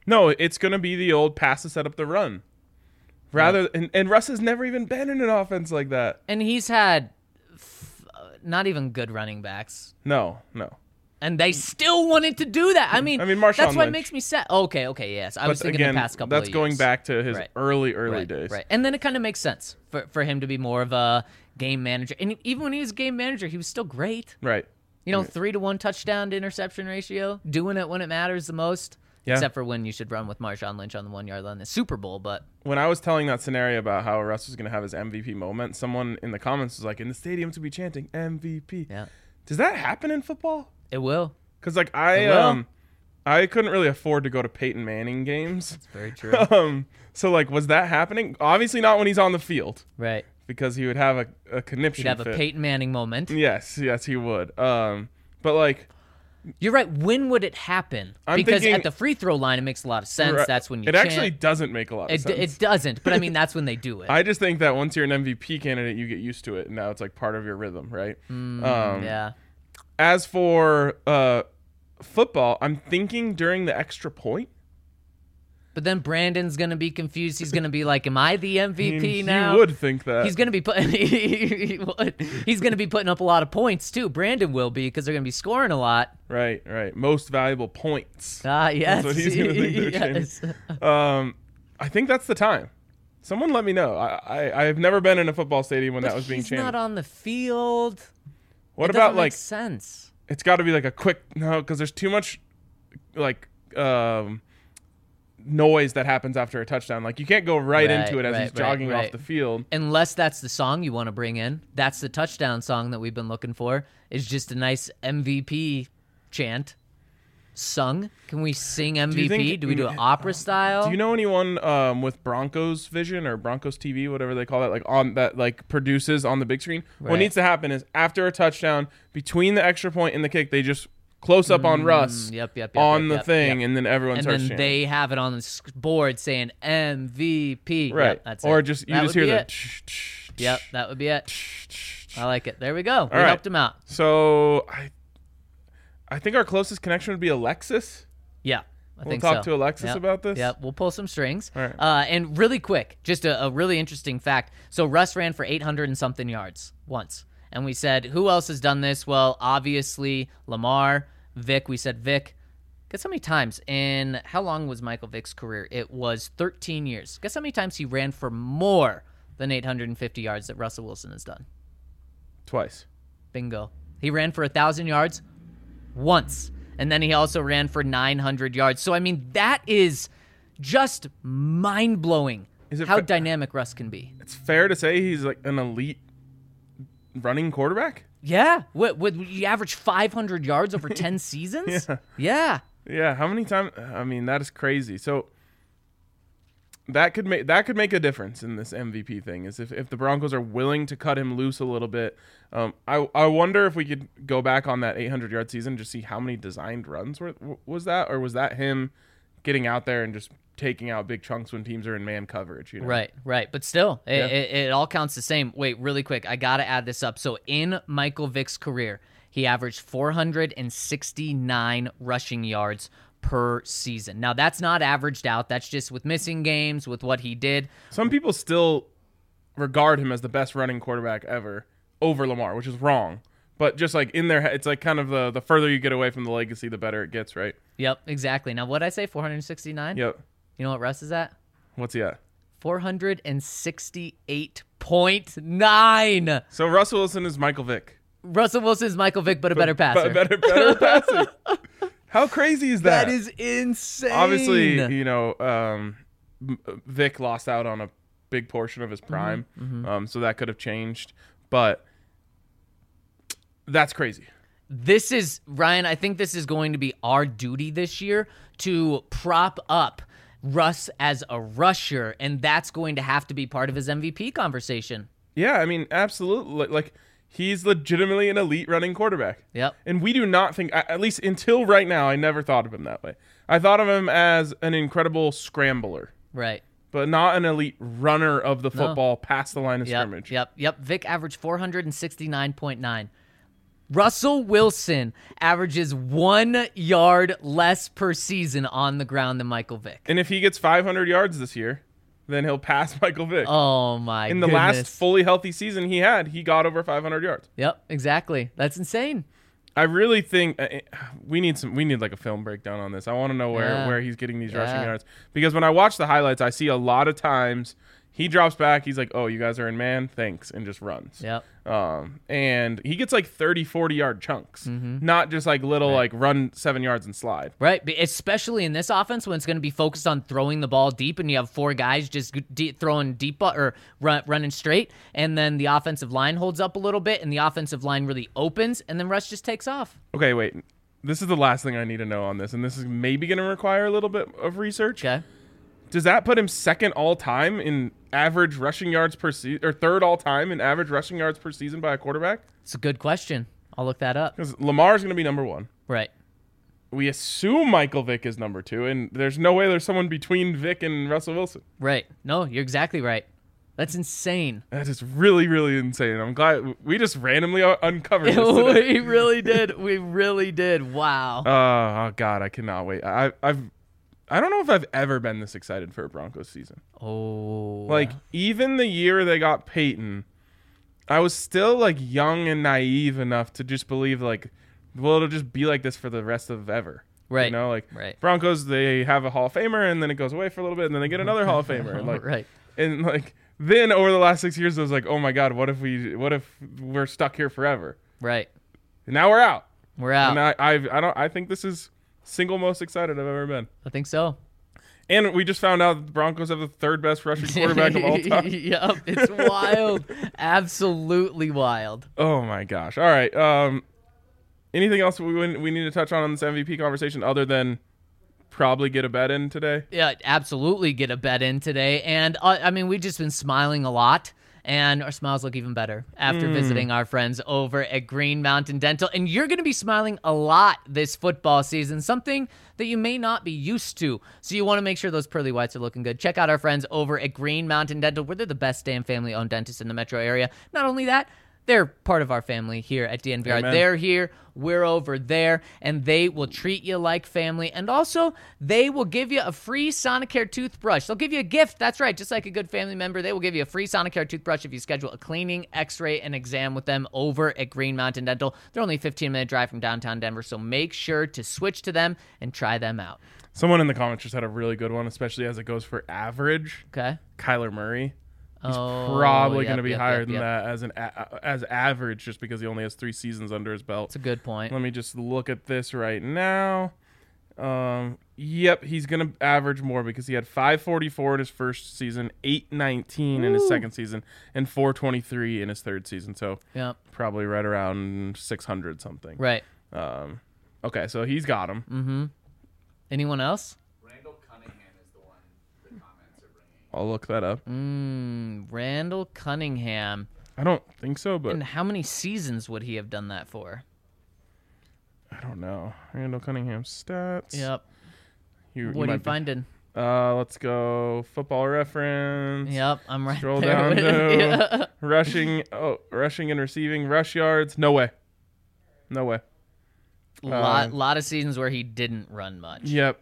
No, it's going to be the old pass to set up the run. And Russ has never even been in an offense like that. And he's had not even good running backs. No. And they still wanted to do that. I mean Marshawn that's what Lynch. makes me sad. Okay, yes. I was thinking again, the past couple that's of years. going back to his Right. early days. Right. And then it kind of makes sense for him to be more of a game manager. And even when he was game manager, he was still great. Right. 3-to-1 touchdown to interception ratio, doing it when it matters the most. Yeah. Except for when you should run with Marshawn Lynch on the 1 yard line in the Super Bowl. But When I was telling that scenario about how Russ was going to have his MVP moment, someone in the comments was like, in the stadium to be chanting MVP. yeah, Does that happen in football? it will. Because like will. I couldn't really afford to go to Peyton Manning games. It's very true. So like, was that happening? Obviously not when he's on the field, Right. because he would have a conniption He'd have a fit. Peyton Manning moment. Yes, he would. But like, You're right. When would it happen? I'm Because thinking- at the free throw line, it makes a lot of sense. right, That's when you it chant. actually doesn't make a lot of sense. It doesn't, but I mean, that's when they do it. I just think that once you're an MVP candidate, you get used to it, and now it's like part of your rhythm, right? Yeah. As for football, I'm thinking during the extra point. But then Brandon's going to be confused. He's going to be like, am I the MVP now? You would think that. He's going to be putting he's going to be putting up a lot of points too. Brandon will be, because they're going to be scoring a lot. Right. Most valuable points. Yes. That's what he's going to think they're Yes. I think that's the time. Someone let me know. I've never been in a football stadium when But that was being he's chanted. not on the field. What It about doesn't make like sense? it's got to be like a quick because there's too much like noise that happens after a touchdown. Like you can't go right into it as he's jogging off the field. Unless that's the song you want to bring in. That's the touchdown song that we've been looking for. Is just a nice MVP chant sung. Can we sing MVP? Do we do it opera style? Do you know anyone with Broncos Vision or Broncos TV, whatever they call that, like on that like produces on the big screen? What Right. needs to happen is after a touchdown, between the extra point and the kick, they just close up on Russ on the thing, and then everyone and starts then chanting. they have it on the board saying MVP. Right. Yep, that's or it. just you That just would hear be the it. Yep, that would be it. I like it. There we go. We right. helped him out. So I think our closest connection would be Alexis. Yeah. I We'll think talk so. to Alexis Yep. about this. Yeah, we'll pull some strings. All right. And really quick, just a really interesting fact. So Russ ran for 800 and something yards once. And we said, who else has done this? Well, obviously Lamar, Vic. We said Vic. Guess how many times in how long was Michael Vick's career? It was 13 years. Guess how many times he ran for more than 850 yards that Russell Wilson has done? Twice. Bingo. He ran for 1,000 yards once. And then he also ran for 900 yards. So, I mean, that is just mind-blowing how dynamic Russ can be. It's fair to say he's like an elite running quarterback? Yeah. Would you average 500 yards over 10 seasons? Yeah. Yeah, how many times? I mean, that is crazy. So that could make a difference in this MVP thing. Is if the Broncos are willing to cut him loose a little bit. I wonder if we could go back on that 800-yard season and just see how many designed runs was that, or was that him getting out there and just taking out big chunks when teams are in man coverage? You know? Right. But still, it all counts the same. Wait, really quick. I got to add this up. So in Michael Vick's career, he averaged 469 rushing yards per season. Now, that's not averaged out. That's just with missing games, with what he did. Some people still regard him as the best running quarterback ever over Lamar, which is wrong. But just like in their head, it's like kind of the further you get away from the legacy, the better it gets, right? Yep, exactly. Now, what did I say? 469? Yep. You know what Russ is at? What's he at? 468.9. So Russell Wilson is Michael Vick. Russell Wilson is Michael Vick, but a better passer. Better passing. How crazy is that? That is insane. Obviously, Vick lost out on a big portion of his prime, so that could have changed. But that's crazy. This is, Ryan, I think this is going to be our duty this year to prop up Russ as a rusher, and that's going to have to be part of his MVP conversation. Yeah, I mean, absolutely. Like, he's legitimately an elite running quarterback. Yep. And we do not think, at least until right now, I never thought of him that way. I thought of him as an incredible scrambler. Right. But not an elite runner of the football past the line of scrimmage. Yep. Vic averaged 469.9. Russell Wilson averages 1 yard less per season on the ground than Michael Vick. And if he gets 500 yards this year, then he'll pass Michael Vick. Oh, my In the last fully healthy season he got over 500 yards. Yep, exactly. That's insane. I really think we need like a film breakdown on this. I want to know where he's getting these rushing yards. Because when I watch the highlights, I see a lot of times he drops back. He's like, oh, you guys are in man? Thanks. And just runs. Yep. And he gets like 30, 40-yard chunks. Not just like little like run 7 yards and slide. Right. Especially in this offense when it's going to be focused on throwing the ball deep and you have 4 guys just throwing deep or running straight. And then the offensive line holds up a little bit and the offensive line really opens and then Russ just takes off. Okay, wait. This is the last thing I need to know on this. And this is maybe going to require a little bit of research. Okay. Does that put him second all time in average rushing yards per season, or third all time in average rushing yards per season by a quarterback? It's a good question. I'll look that up. Because Lamar's going to be number 1. Right. We assume Michael Vick is number 2, and there's no way there's someone between Vick and Russell Wilson. Right. No, you're exactly right. That's insane. That is really, really insane. I'm glad we just randomly uncovered this today. We really did. We really did. Wow. Oh God, I cannot wait. I don't know if I've ever been this excited for a Broncos season. Oh. Like, even the year they got Peyton, I was still, like, young and naive enough to just believe, like, well, it'll just be like this for the rest of ever. Right. You know, like, right. Broncos, they have a Hall of Famer, and then it goes away for a little bit, and then they get another Hall of Famer. And, like, right. And, like, then over the last 6 years, I was like, oh, my God, what if we're stuck here forever? Right. And now we're out. We're out. And I think this is single most excited I've ever been. I think so. And we just found out the Broncos have the 3rd best rushing quarterback of all time. Yep, it's wild. Absolutely wild. Oh, my gosh. All right. Anything else we need to touch on this MVP conversation other than probably get a bet in today? Yeah, absolutely get a bet in today. And, I mean, we've just been smiling a lot. And our smiles look even better after visiting our friends over at Green Mountain Dental. And you're going to be smiling a lot this football season, something that you may not be used to. So you want to make sure those pearly whites are looking good. Check out our friends over at Green Mountain Dental, where they're the best damn family-owned dentists in the metro area. Not only that, they're part of our family here at DNVR. Amen. They're here, we're over there, and they will treat you like family. And also, they will give you a free Sonicare toothbrush. They'll give you a gift. That's right. Just like a good family member, they will give you a free Sonicare toothbrush if you schedule a cleaning, x-ray, and exam with them over at Green Mountain Dental. They're only a 15-minute drive from downtown Denver, so make sure to switch to them and try them out. Someone in the comments just had a really good one, especially as it goes for average. Okay. Kyler Murray. He's probably going to be higher than that as average, just because he only has 3 seasons under his belt. That's a good point. Let me just look at this right now. Yep, he's going to average more because he had 544 in his first season, 819 in his second season, and 423 in his third season. So probably right around 600 something. Right. Okay, so he's got him. Mm-hmm. Anyone else? I'll look that up. Randall Cunningham. I don't think so, but... And how many seasons would he have done that for? I don't know. Randall Cunningham's stats. Yep. What are you finding? Let's go Football Reference. Yep, I'm right Scroll there. down to rushing and receiving, rush yards. No way. Lot of seasons where he didn't run much. Yep.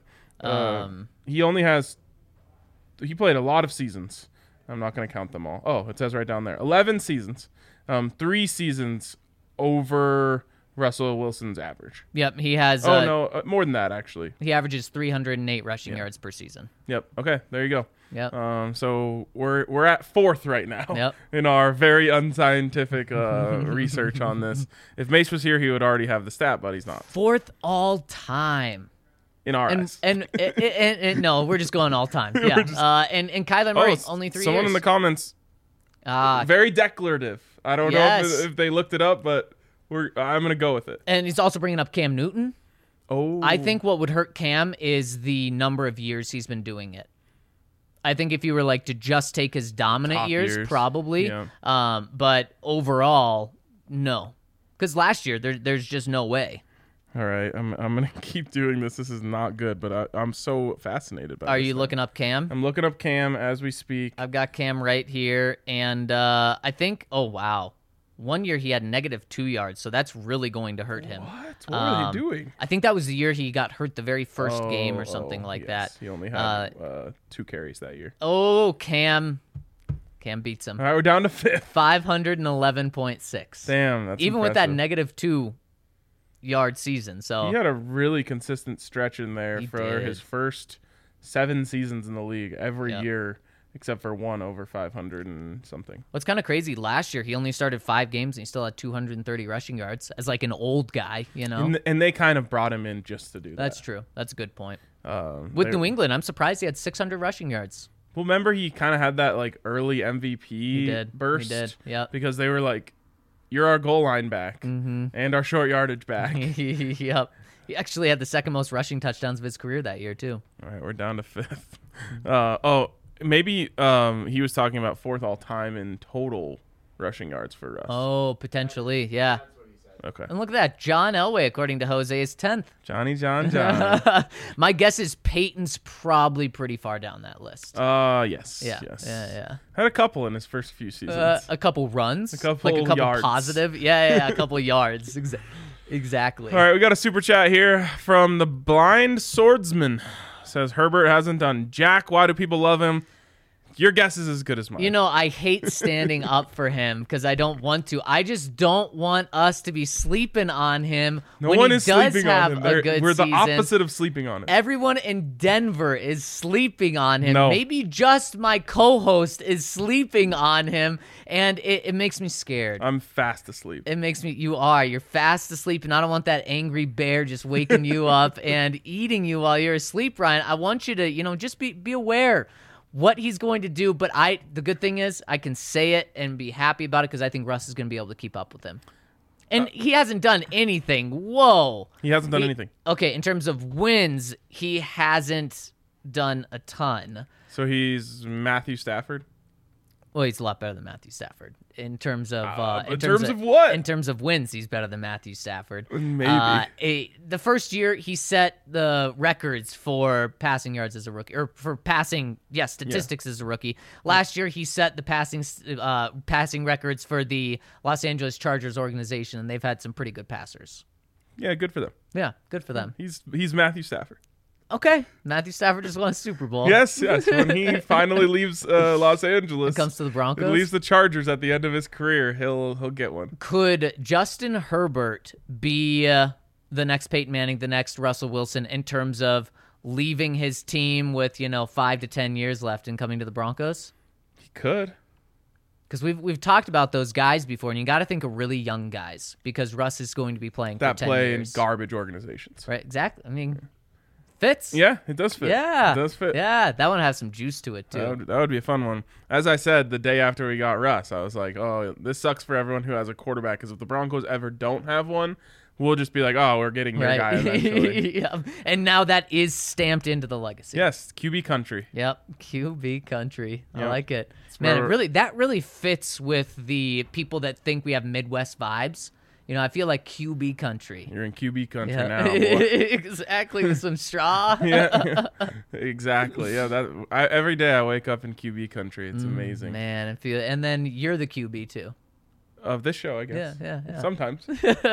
He played a lot of seasons. I'm not going to count them all. Oh, it says right down there. 11 seasons. 3 seasons over Russell Wilson's average. Yep, he has... more than that, actually. He averages 308 rushing yards per season. Yep. Okay, there you go. Yep. So we're at 4th right now in our very unscientific research on this. If Mace was here, he would already have the stat, but he's not. 4th all time. In our eyes. And no, we're just going all time. Yeah. And Kyler Murray, only 3 years. Someone in the comments, very declarative. I don't know if they looked it up, but I'm going to go with it. And he's also bringing up Cam Newton. Oh. I think what would hurt Cam is the number of years he's been doing it. I think if you were like to just take his dominant years, probably. Yeah. But overall, no. Because last year, there's just no way. All right, I'm going to keep doing this. This is not good, but I'm so fascinated by this. Are you looking up Cam? I'm looking up Cam as we speak. I've got Cam right here, and I think, oh, wow. 1 year he had -2 yards, so that's really going to hurt him. What were they doing? I think that was the year he got hurt the very first game or something like yes. that. He only had 2 carries that year. Oh, Cam beats him. All right, we're down to 5th. 511.6. Damn, that's even impressive. with that -2 yard season. So he had a really consistent stretch in there He for did. his first 7 seasons in the league, every Yep. year except for one over 500 and something. what's kind of crazy, last year he only started 5 games and he still had 230 rushing yards as like an old guy, you know? And they kind of brought him in just to do that. That's true. That's a good point. With New England, I'm surprised he had 600 rushing yards. Well, remember he kind of had that like early MVP burst. He did. Yep. Because they were like, "You're our goal line back and our short yardage back." Yep. He actually had the second most rushing touchdowns of his career that year too. All right, we're down to 5th. Maybe he was talking about 4th all time in total rushing yards for Russ. Oh, potentially, yeah. Okay. And look at that. John Elway, according to Jose, is 10th. Johnny John. My guess is Peyton's probably pretty far down that list. Yes. Yeah. Yes. Yeah. Had a couple in his first few seasons. A couple runs. A couple like a couple yards. positive. Yeah, a couple yards. Exactly. All right, we got a super chat here from the Blind Swordsman. Says Herbert hasn't done jack. Why do people love him? Your guess is as good as mine. You know, I hate standing up for him because I don't want to. I just don't want us to be sleeping on him no when one he is does sleeping have on him. a good We're the season. opposite of sleeping on him. Everyone in Denver is sleeping on him. No. Maybe just my co-host is sleeping on him, and it makes me scared. I'm fast asleep. It makes me. You're fast asleep, and I don't want that angry bear just waking you up and eating you while you're asleep, Ryan. I want you to, just be aware what he's going to do. But the good thing is I can say it and be happy about it because I think Russ is going to be able to keep up with him. And he hasn't done anything. Whoa. He hasn't done anything. Okay, in terms of wins, he hasn't done a ton. So he's Matthew Stafford? Well, he's a lot better than Matthew Stafford in terms of in terms of what? In terms of wins, he's better than Matthew Stafford. Maybe. The first year he set the records for passing yards as a rookie, or for passing, statistics as a rookie. Last year he set the passing records for the Los Angeles Chargers organization, and they've had some pretty good passers. Yeah, good for them. Yeah, good for them. He's Matthew Stafford. Okay, Matthew Stafford just won a Super Bowl. Yes. When he finally leaves Los Angeles, It comes to the Broncos. leaves the Chargers at the end of his career, he'll get one. Could Justin Herbert be the next Peyton Manning, the next Russell Wilson in terms of leaving his team with 5 to 10 years left and coming to the Broncos? He could. Because we've talked about those guys before, and you got to think of really young guys because Russ is going to be playing That for 10 play years. in garbage organizations. Right? Exactly. I mean, fits. Yeah, it does fit. Yeah. It does fit. Yeah, that one has some juice to it too. That would be a fun one. As I said, the day after we got Russ, I was like, oh, this sucks for everyone who has a quarterback, because if the Broncos ever don't have one, we'll just be like, oh, we're getting your guy eventually. Yep. And now that is stamped into the legacy. Yes, QB country. Yep, QB country. I Yep. like it. Man, where- that really fits with the people that think we have Midwest vibes. I feel like QB country. You're in QB country Yeah. now, boy. Exactly, with some straw. Yeah, exactly. Yeah, every day I wake up in QB country. It's amazing. Man, and then you're the QB too. Of this show, I guess. Yeah. Sometimes.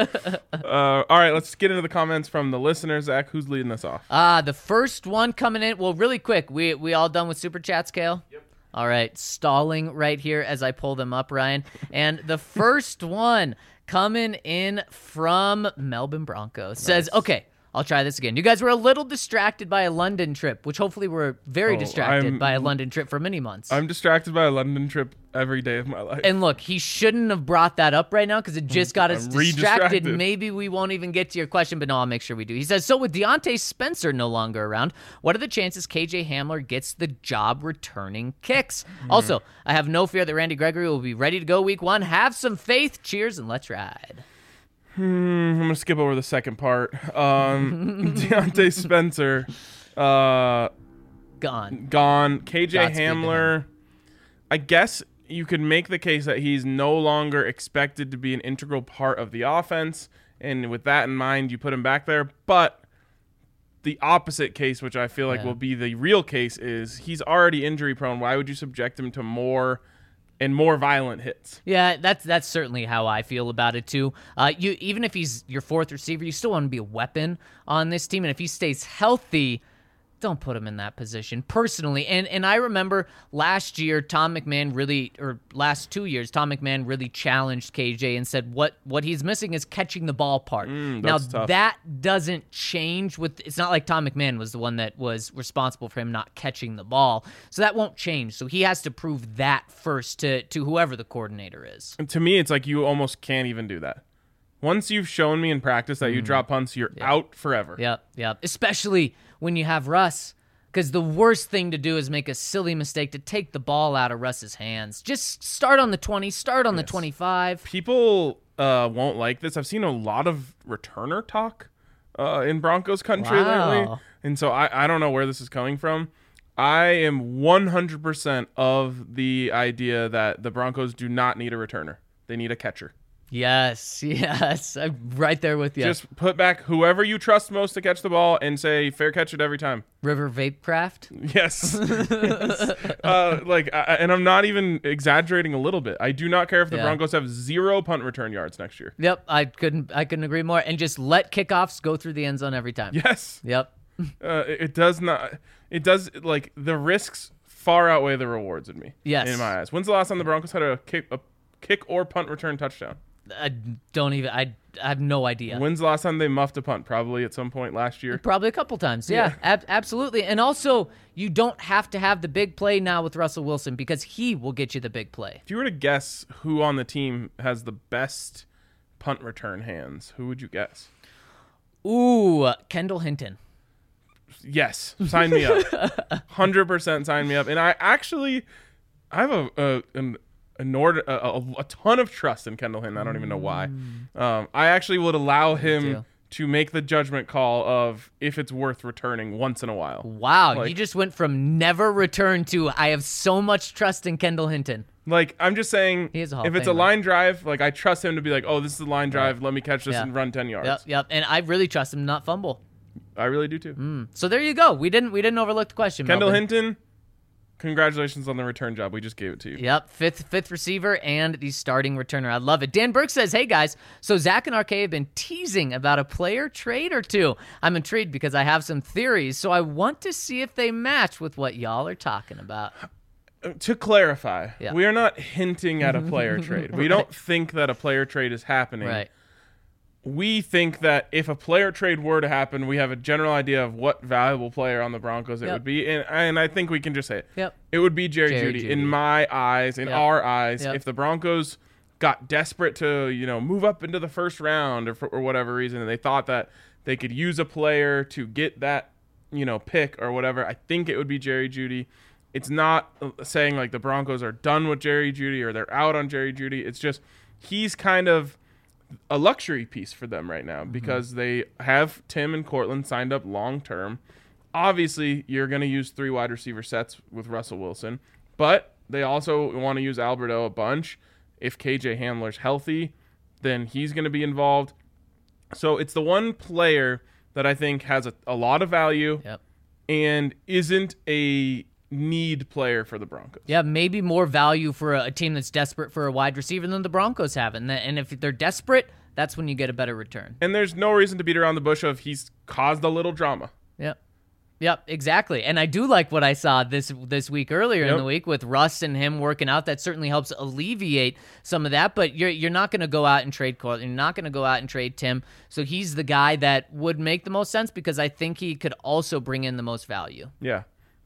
All right, let's get into the comments from the listeners. Zach, who's leading us off? The first one coming in. Well, really quick. We all done with super chats, Kale? Yep. All right, stalling right here as I pull them up, Ryan. And the first one coming in from Melbourne Broncos says, okay, I'll try this again. You guys were a little distracted by a London trip, which hopefully we're very distracted by a London trip for many months. I'm distracted by a London trip every day of my life. And look, he shouldn't have brought that up right now because it just got us I'm distracted. re-distracted. Maybe we won't even get to your question, but no, I'll make sure we do. He says, so with Deontay Spencer no longer around, what are the chances KJ Hamler gets the job returning kicks? Also, I have no fear that Randy Gregory will be ready to go week 1. Have some faith. Cheers, and let's ride. I'm going to skip over the second part. Deontay Spencer, Gone. gone. KJ Godspeed to Hamler, I guess you could make the case that he's no longer expected to be an integral part of the offense. And with that in mind, you put him back there. But the opposite case, which I feel like will be the real case, is he's already injury prone. Why would you subject him to more and more violent hits. Yeah, that's certainly how I feel about it too. You even if he's your fourth receiver, you still want to be a weapon on this team, and if he stays healthy, don't put him in that position personally. And I remember last year, last 2 years, Tom McMahon really challenged KJ and said what he's missing is catching the ball part. Now tough. that doesn't change it's not like Tom McMahon was the one that was responsible for him not catching the ball. So that won't change. So he has to prove that first to whoever the coordinator is. And to me, it's like you almost can't even do that. Once you've shown me in practice that you drop punts, you're out forever. Yep. Especially when you have Russ, because the worst thing to do is make a silly mistake to take the ball out of Russ's hands. Just start on the 20, start on the 25. People won't like this. I've seen a lot of returner talk in Broncos country lately. And so I don't know where this is coming from. I am 100% of the idea that the Broncos do not need a returner. They need a catcher. Yes, I'm right there with you. Just put back whoever you trust most to catch the ball and say fair catch it every time. River Vapecraft? Yes. And I'm not even exaggerating a little bit. I do not care if the Broncos have 0 punt return yards next year. Yep, I couldn't agree more. And just let kickoffs go through the end zone every time. Yes. Yep. The risks far outweigh the rewards in me. Yes. In my eyes. When's the last time the Broncos had a kick or punt return touchdown? I have no idea. When's the last time they muffed a punt? Probably at some point last year. Probably a couple times. Yeah. Absolutely. And also, you don't have to have the big play now with Russell Wilson because he will get you the big play. If you were to guess who on the team has the best punt return hands, who would you guess? Ooh, Kendall Hinton. Yes, sign me up. 100% sign me up. And I have a ton of trust in Kendall Hinton. I don't even know why. I actually would allow him to make the judgment call of if it's worth returning once in a while. Wow, you just went from never return to I have so much trust in Kendall Hinton. I'm just saying, if it's a line drive, I trust him to be like, oh, this is a line drive. Let me catch this and run 10 yards. Yep. And I really trust him to not fumble. I really do too. So there you go. We didn't overlook the question. Kendall Melvin. Hinton, congratulations on the return job. We just gave it to you. Yep, fifth receiver and the starting returner. I love it. Dan Burke says, hey guys, so Zach and RK have been teasing about a player trade or two. I'm intrigued because I have some theories, so I want to see if they match with what y'all are talking about. To clarify, we are not hinting at a player trade. We don't think that a player trade is happening. Right. We think that if a player trade were to happen, we have a general idea of what valuable player on the Broncos it would be. And I think we can just say it. Yep. It would be Jerry Jeudy. In my eyes, in our eyes, if the Broncos got desperate to, move up into the first round or for whatever reason, and they thought that they could use a player to get that, pick or whatever, I think it would be Jerry Jeudy. It's not saying the Broncos are done with Jerry Jeudy or they're out on Jerry Jeudy. It's just he's kind of a luxury piece for them right now because they have Tim and Cortland signed up long term. Obviously, you're going to use 3 wide receiver sets with Russell Wilson, but they also want to use Alberto a bunch. If KJ Hamler's healthy, then he's going to be involved. So it's the one player that I think has a lot of value and isn't a need player for the Broncos. Yeah, maybe more value for a team that's desperate for a wide receiver than the Broncos have. And if they're desperate, that's when you get a better return. And there's no reason to beat around the bush of he's caused a little drama. Yep, exactly. And I do like what I saw this week earlier in the week with Russ and him working out. That certainly helps alleviate some of that. But you're not going to go out and trade Cortland. You're not going to go out and trade Tim. So he's the guy that would make the most sense because I think he could also bring in the most value. Yeah.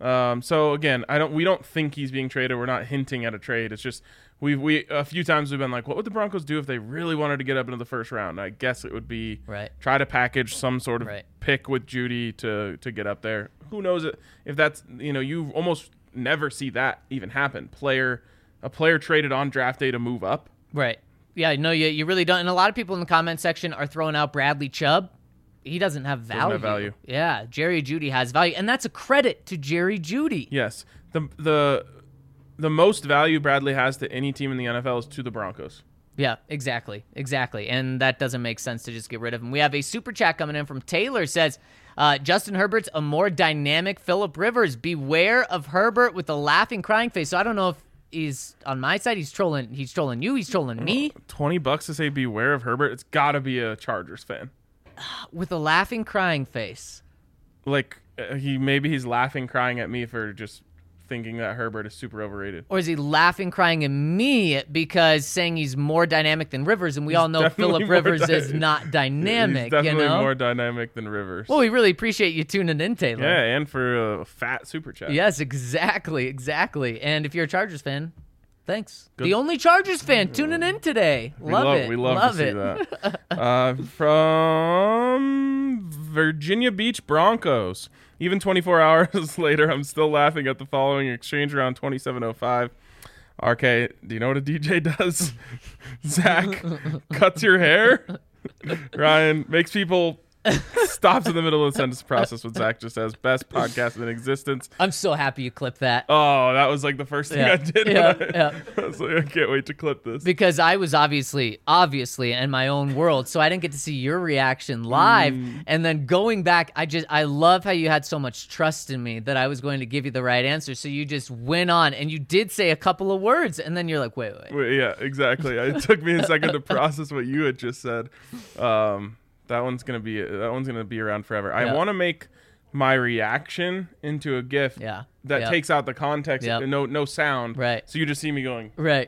So again, we don't think he's being traded. We're not hinting at a trade. It's just we a few times we've been like, what would the Broncos do if they really wanted to get up into the first round? I guess it would be try to package some sort of pick with Jeudy to get up there. Who knows if that's you almost never see that even happen. A player traded on draft day to move up. Right. Yeah. No, you really don't. And a lot of people in the comment section are throwing out Bradley Chubb. He doesn't have value. Yeah, Jerry Jeudy has value, and that's a credit to Jerry Jeudy. Yes, the most value Bradley has to any team in the NFL is to the Broncos. Yeah, exactly, and that doesn't make sense to just get rid of him. We have a super chat coming in from Taylor. Says Justin Herbert's a more dynamic Phillip Rivers. Beware of Herbert with the laughing, crying face. So I don't know he's on my side. He's trolling you. He's trolling me. $20 to say beware of Herbert. It's got to be a Chargers fan. With a laughing, crying face. Like he's laughing, crying at me for just thinking that Herbert is super overrated. Or is he laughing, crying at me because saying he's more dynamic than Rivers, and we all know Phillip Rivers is not dynamic. He's definitely you know? more dynamic than Rivers. Well, we really appreciate you tuning in, Taylor. Yeah, and for a fat super chat. Yes, exactly. And if you're a Chargers fan, thanks. Good. The only Chargers fan tuning in today. Love it. We love to see that. From Virginia Beach Broncos. Even 24 hours later, I'm still laughing at the following exchange around 27:05. RK, do you know what a DJ does? Zach cuts your hair. Ryan makes people stops in the middle of the sentence process what Zach just says. Best podcast in existence. I'm so happy you clipped that. Oh, that was like the first thing I did. I was like, I can't wait to clip this. Because I was obviously in my own world, so I didn't get to see your reaction live. And then going back, I love how you had so much trust in me that I was going to give you the right answer. So you just went on, and you did say a couple of words, and then you're like, wait. Yeah, exactly. It took me a second to process what you had just said. That one's gonna be around forever. I want to make my reaction into a GIF that takes out the context, no sound. Right. So you just see me going. Right.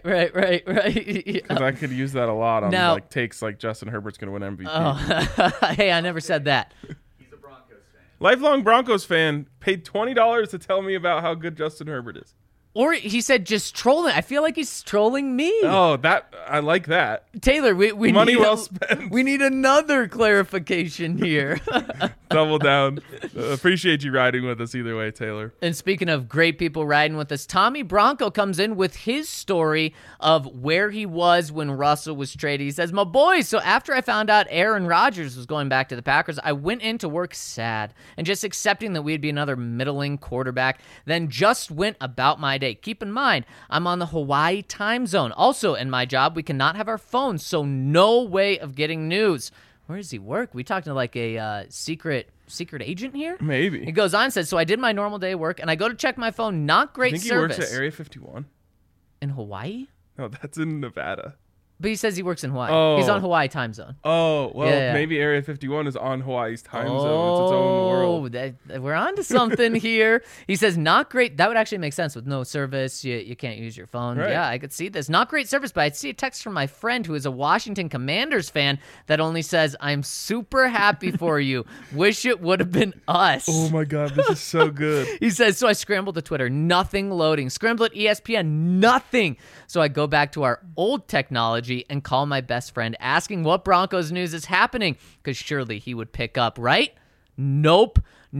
Because I could use that a lot on like takes like Justin Herbert's gonna win MVP. Oh, hey, I never said that. He's a Broncos fan. Lifelong Broncos fan paid $20 to tell me about how good Justin Herbert is. Or he said just trolling. I feel like he's trolling me. Oh, I like that. Taylor, we money need well spent. We need another clarification here. Double down. Appreciate you riding with us either way, Taylor. And speaking of great people riding with us, Tommy Bronco comes in with his story of where he was when Russell was traded. He says, my boys, so after I found out Aaron Rodgers was going back to the Packers, I went into work sad and just accepting that we'd be another middling quarterback, then just went about my day. Keep in mind, I'm on the Hawaii time zone. Also, in my job, we cannot have our phones, so no way of getting news. Where does he work? We talking to like a secret agent here? Maybe. He goes on and says, so I did my normal day work, and I go to check my phone. Not great service. I think he works at Area 51. In Hawaii? No, that's in Nevada. But he says he works in Hawaii. Oh. He's on Hawaii time zone. Oh, well, maybe Area 51 is on Hawaii's time zone. It's its own world. We're on to something here. He says, not great. That would actually make sense with no service. You can't use your phone. Right. Yeah, I could see this. Not great service, but I see a text from my friend who is a Washington Commanders fan that only says, I'm super happy for you. Wish it would have been us. Oh, my God. This is so good. He says, so I scrambled to Twitter. Nothing loading. Scrambled at ESPN. Nothing. So I go back to our old technology and call my best friend asking what Broncos news is happening because surely he would pick up, right? Nope.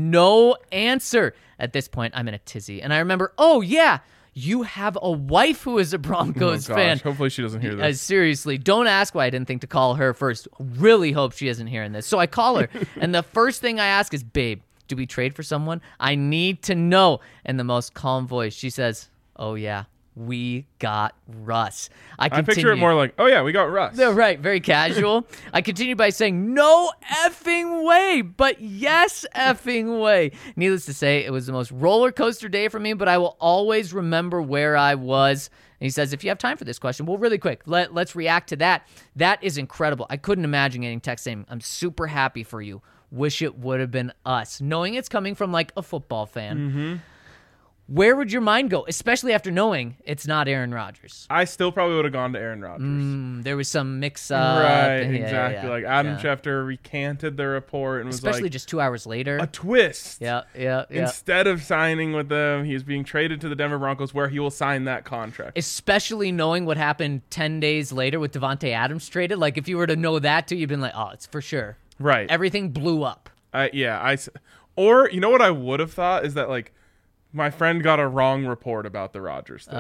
No answer. At this point, I'm in a tizzy. And I remember, oh, yeah, you have a wife who is a Broncos fan. Hopefully she doesn't hear this. Seriously, don't ask why I didn't think to call her first. Really hope she isn't hearing this. So I call her, and the first thing I ask is, babe, do we trade for someone? I need to know. In the most calm voice, she says, oh, yeah. We got Russ. I picture it more like, oh, yeah, we got Russ. No, right, very casual. I continue by saying, no effing way, but yes effing way. Needless to say, it was the most roller coaster day for me, but I will always remember where I was. And he says, if you have time for this question, well, really quick, let's react to that. That is incredible. I couldn't imagine getting text saying, I'm super happy for you. Wish it would have been us. Knowing it's coming from like a football fan. Mm-hmm. Where would your mind go, especially after knowing it's not Aaron Rodgers? I still probably would have gone to Aaron Rodgers. There was some mix-up. Right, exactly. Like Adam Schefter recanted the report and was especially like, just 2 hours later. A twist. Yeah. Instead of signing with them, he's being traded to the Denver Broncos where he will sign that contract. Especially knowing what happened 10 days later with Devontae Adams traded. Like, if you were to know that too, you'd been like, oh, it's for sure. Right. Everything blew up. Or, you know what I would have thought is that, like, my friend got a wrong report about the Rodgers thing.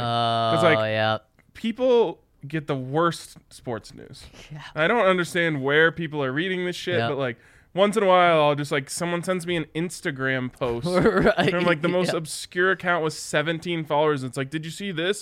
People get the worst sports news. Yeah. I don't understand where people are reading this shit, but like once in a while I'll just like someone sends me an Instagram post right. from like the most obscure account with 17 followers. It's like, did you see this? Like,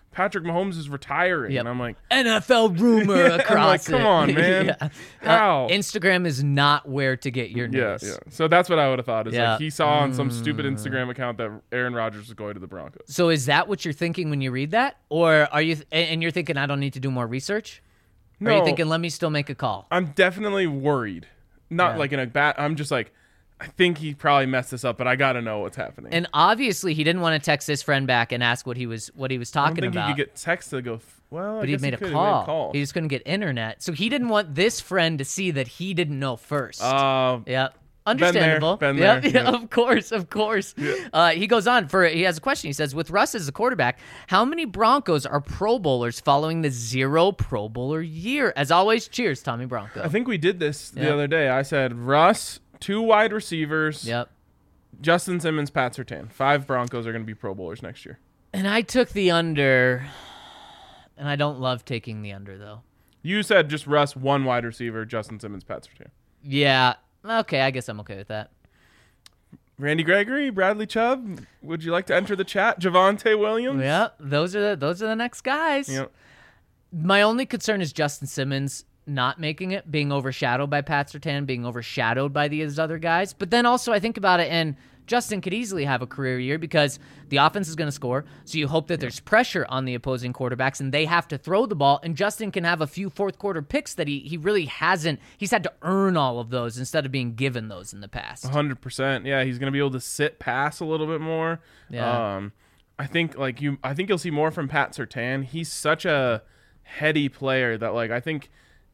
Patrick Mahomes is retiring. Yep. And I'm like, NFL rumor across I'm like, come it. on, man. Yeah. How? Instagram is not where to get your news. Yeah. So that's what I would have thought. Is Yeah. like he saw on some stupid Instagram account that Aaron Rodgers was going to the Broncos. So is that what you're thinking when you read that? Or are you and you're thinking I don't need to do more research? Or are you thinking let me still make a call? I'm definitely worried. Not like in a bad. I'm just like, I think he probably messed this up, but I got to know what's happening. And obviously he didn't want to text his friend back and ask what he was talking I don't think about. he could get text to go. Well, But he made a call. He just couldn't get internet. So he didn't want this friend to see that he didn't know first. Yep. Understandable. Been Yep. there. Yeah, of course. Yeah. He goes on he has a question. He says, with Russ as the quarterback, how many Broncos are Pro Bowlers following the 0 Pro Bowler year? As always, cheers, Tommy Bronco. I think we did this the other day. I said Russ, 2 wide receivers, Yep. Justin Simmons, Pat Surtain. 5 Broncos are going to be Pro Bowlers next year. And I took the under, and I don't love taking the under, though. You said just Russ, 1 wide receiver, Justin Simmons, Pat Surtain. Yeah. Okay, I guess I'm okay with that. Randy Gregory, Bradley Chubb. Would you like to enter the chat? Javonte Williams. Yeah, those are the next guys. Yep. My only concern is Justin Simmons not making it, being overshadowed by Pat Surtain, being overshadowed by these other guys. But then also I think about it, and Justin could easily have a career year because the offense is going to score. So you hope that there's pressure on the opposing quarterbacks and they have to throw the ball. And Justin can have a few fourth quarter picks that he really hasn't. He's had to earn all of those instead of being given those in the past. 100%. Yeah, he's going to be able to sit pass a little bit more. Yeah. I think you'll see more from Pat Surtain. He's such a heady player that I think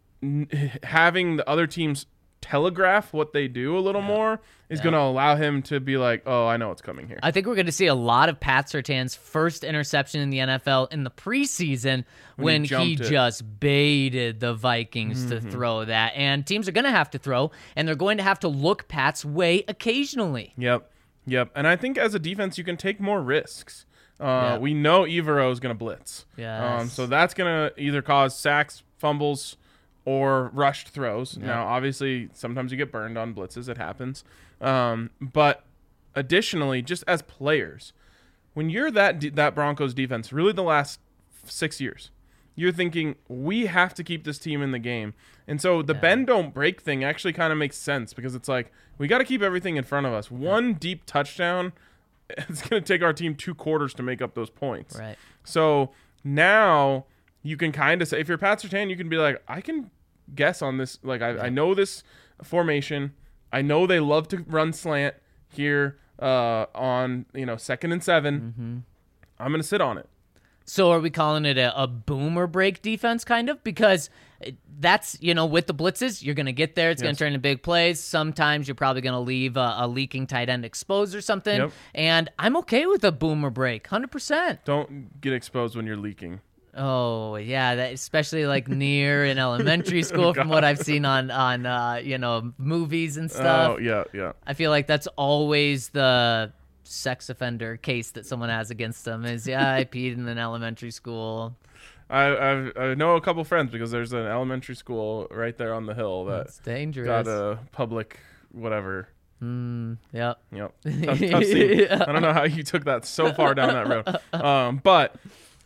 having the other teams telegraph what they do a little more is going to allow him to be like, oh, I know what's coming here. I think we're going to see a lot of Pat Surtain's first interception in the NFL in the preseason when he just baited the Vikings to throw that. And teams are going to have to throw, and they're going to have to look Pat's way occasionally. Yep. And I think as a defense, you can take more risks. We know Evero is going to blitz. Yes. So that's going to either cause sacks, fumbles, or rushed throws. Yeah. Now, obviously, sometimes you get burned on blitzes. It happens. But additionally, just as players, when you're that Broncos defense, really the last 6 years, you're thinking, we have to keep this team in the game. And so the bend don't break thing actually kind of makes sense because it's like, we got to keep everything in front of us. One deep touchdown, it's going to take our team 2 quarters to make up those points. Right. So now you can kind of say, if you're Pat Surtain, you can be like, I can guess on this. I know this formation. I know they love to run slant here on 2nd and 7. I'm going to sit on it. So are we calling it a boomer break defense kind of? Because that's, with the blitzes, you're going to get there. It's going to turn into big plays. Sometimes you're probably going to leave a leaking tight end exposed or something. Yep. And I'm okay with a boomer break, 100%. Don't get exposed when you're leaking. Oh, yeah, that, especially near in elementary school from what I've seen on movies and stuff. Oh, yeah. I feel like that's always the sex offender case that someone has against them is, I peed in an elementary school. I know a couple friends because there's an elementary school right there on the hill that's dangerous. Got a public whatever. Yep. Tough scene. I don't know how you took that so far down that road. But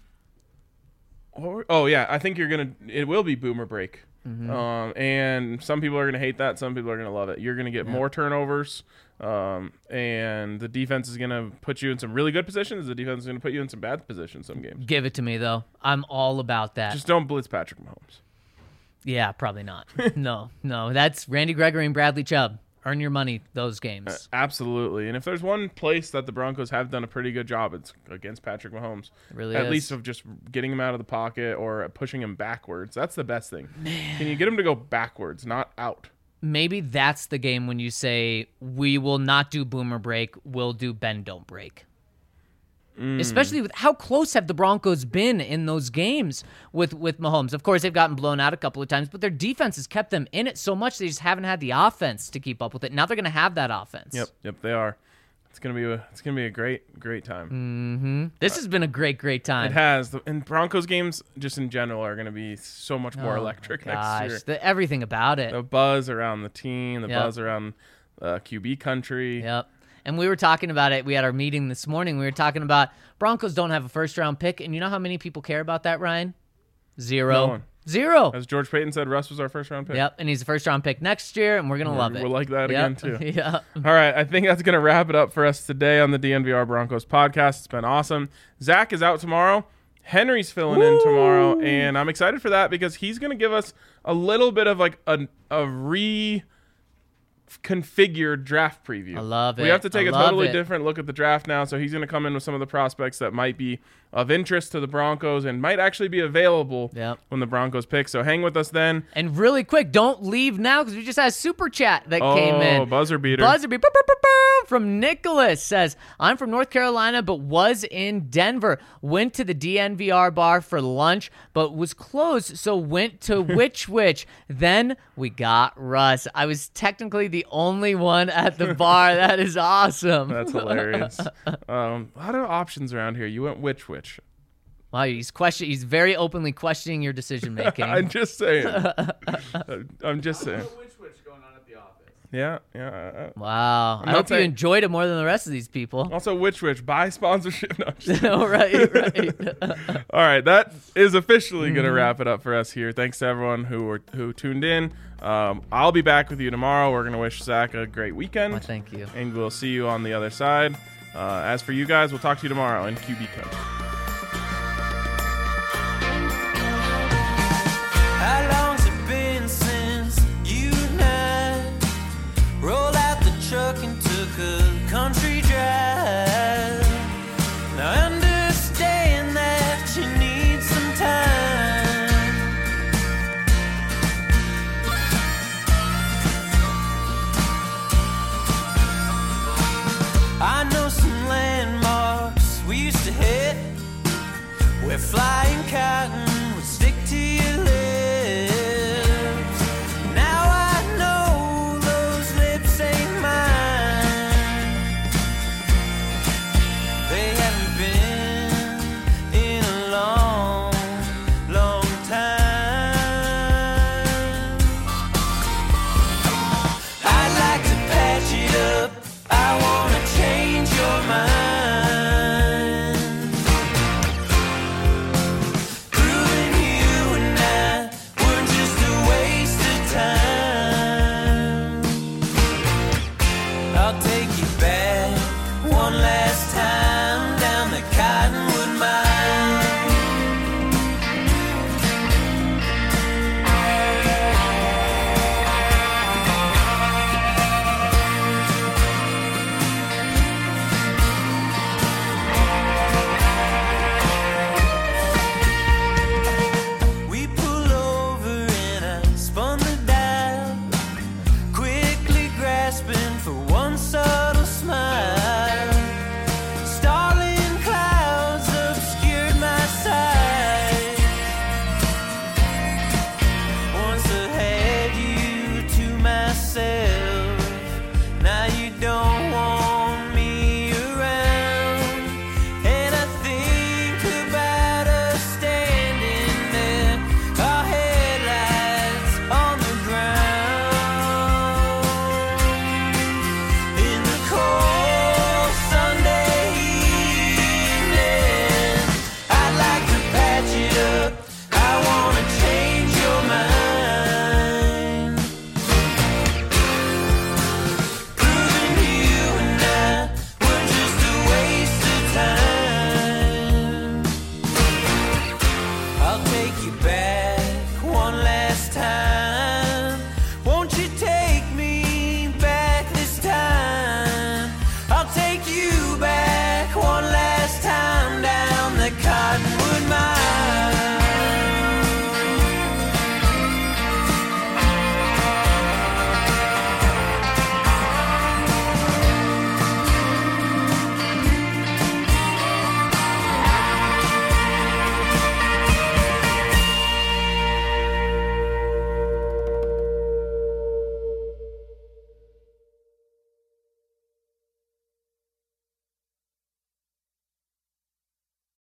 I think it will be boomer break. And some people are going to hate that. Some people are going to love it. You're going to get more turnovers. And the defense is going to put you in some really good positions. The defense is going to put you in some bad positions some games. Give it to me, though. I'm all about that. Just don't blitz Patrick Mahomes. Yeah, probably not. No. That's Randy Gregory and Bradley Chubb. Earn your money those games. Absolutely. And if there's one place that the Broncos have done a pretty good job, it's against Patrick Mahomes. It really At least of just getting him out of the pocket or pushing him backwards. That's the best thing. Man. Can you get him to go backwards, not out? Maybe that's the game when you say, we will not do boomer break, we'll do bend don't break. Especially with how close have the Broncos been in those games with Mahomes. Of course, they've gotten blown out a couple of times, but their defense has kept them in it so much they just haven't had the offense to keep up with it. Now they're going to have that offense. Yep, they are. It's gonna be a great time. This has been a great time. It has, and Broncos games just in general are gonna be so much more electric next year. Everything about it. The buzz around the team, the buzz around QB country. Yep. And we were talking about it. We had our meeting this morning. We were talking about Broncos don't have a first-round pick. And you know how many people care about that, Ryan? Zero. No one. Zero. As George Payton said, Russ was our first-round pick. Yep, and he's a first-round pick next year, and we're going to love it. We'll like that again, too. Yeah. All right, I think that's going to wrap it up for us today on the DNVR Broncos podcast. It's been awesome. Zach is out tomorrow. Henry's filling in tomorrow, and I'm excited for that because he's going to give us a little bit of like a reconfigured draft preview. I love it. We have to take a totally different look at the draft now, so he's going to come in with some of the prospects that might be of interest to the Broncos and might actually be available when the Broncos pick. So hang with us then. And really quick, don't leave now because we just had a super chat that came in. Oh, buzzer beater. Buzzer beater from Nicholas says, I'm from North Carolina but was in Denver. Went to the DNVR bar for lunch but was closed, so went to Which. Then we got Russ. I was technically the only one at the bar. That is awesome. That's hilarious. A lot of options around here. You went Which. Wow, he's very openly questioning your decision making. I'm just saying. I'm just saying. Which going on at the office. Yeah. Wow. I hope you enjoyed it more than the rest of these people. Also, Which buy sponsorship. No, I'm just kidding. Right. All right, that is officially going to wrap it up for us here. Thanks to everyone who tuned in. I'll be back with you tomorrow. We're going to wish Zach a great weekend. Well, thank you. And we'll see you on the other side. As for you guys, we'll talk to you tomorrow in QB Coach.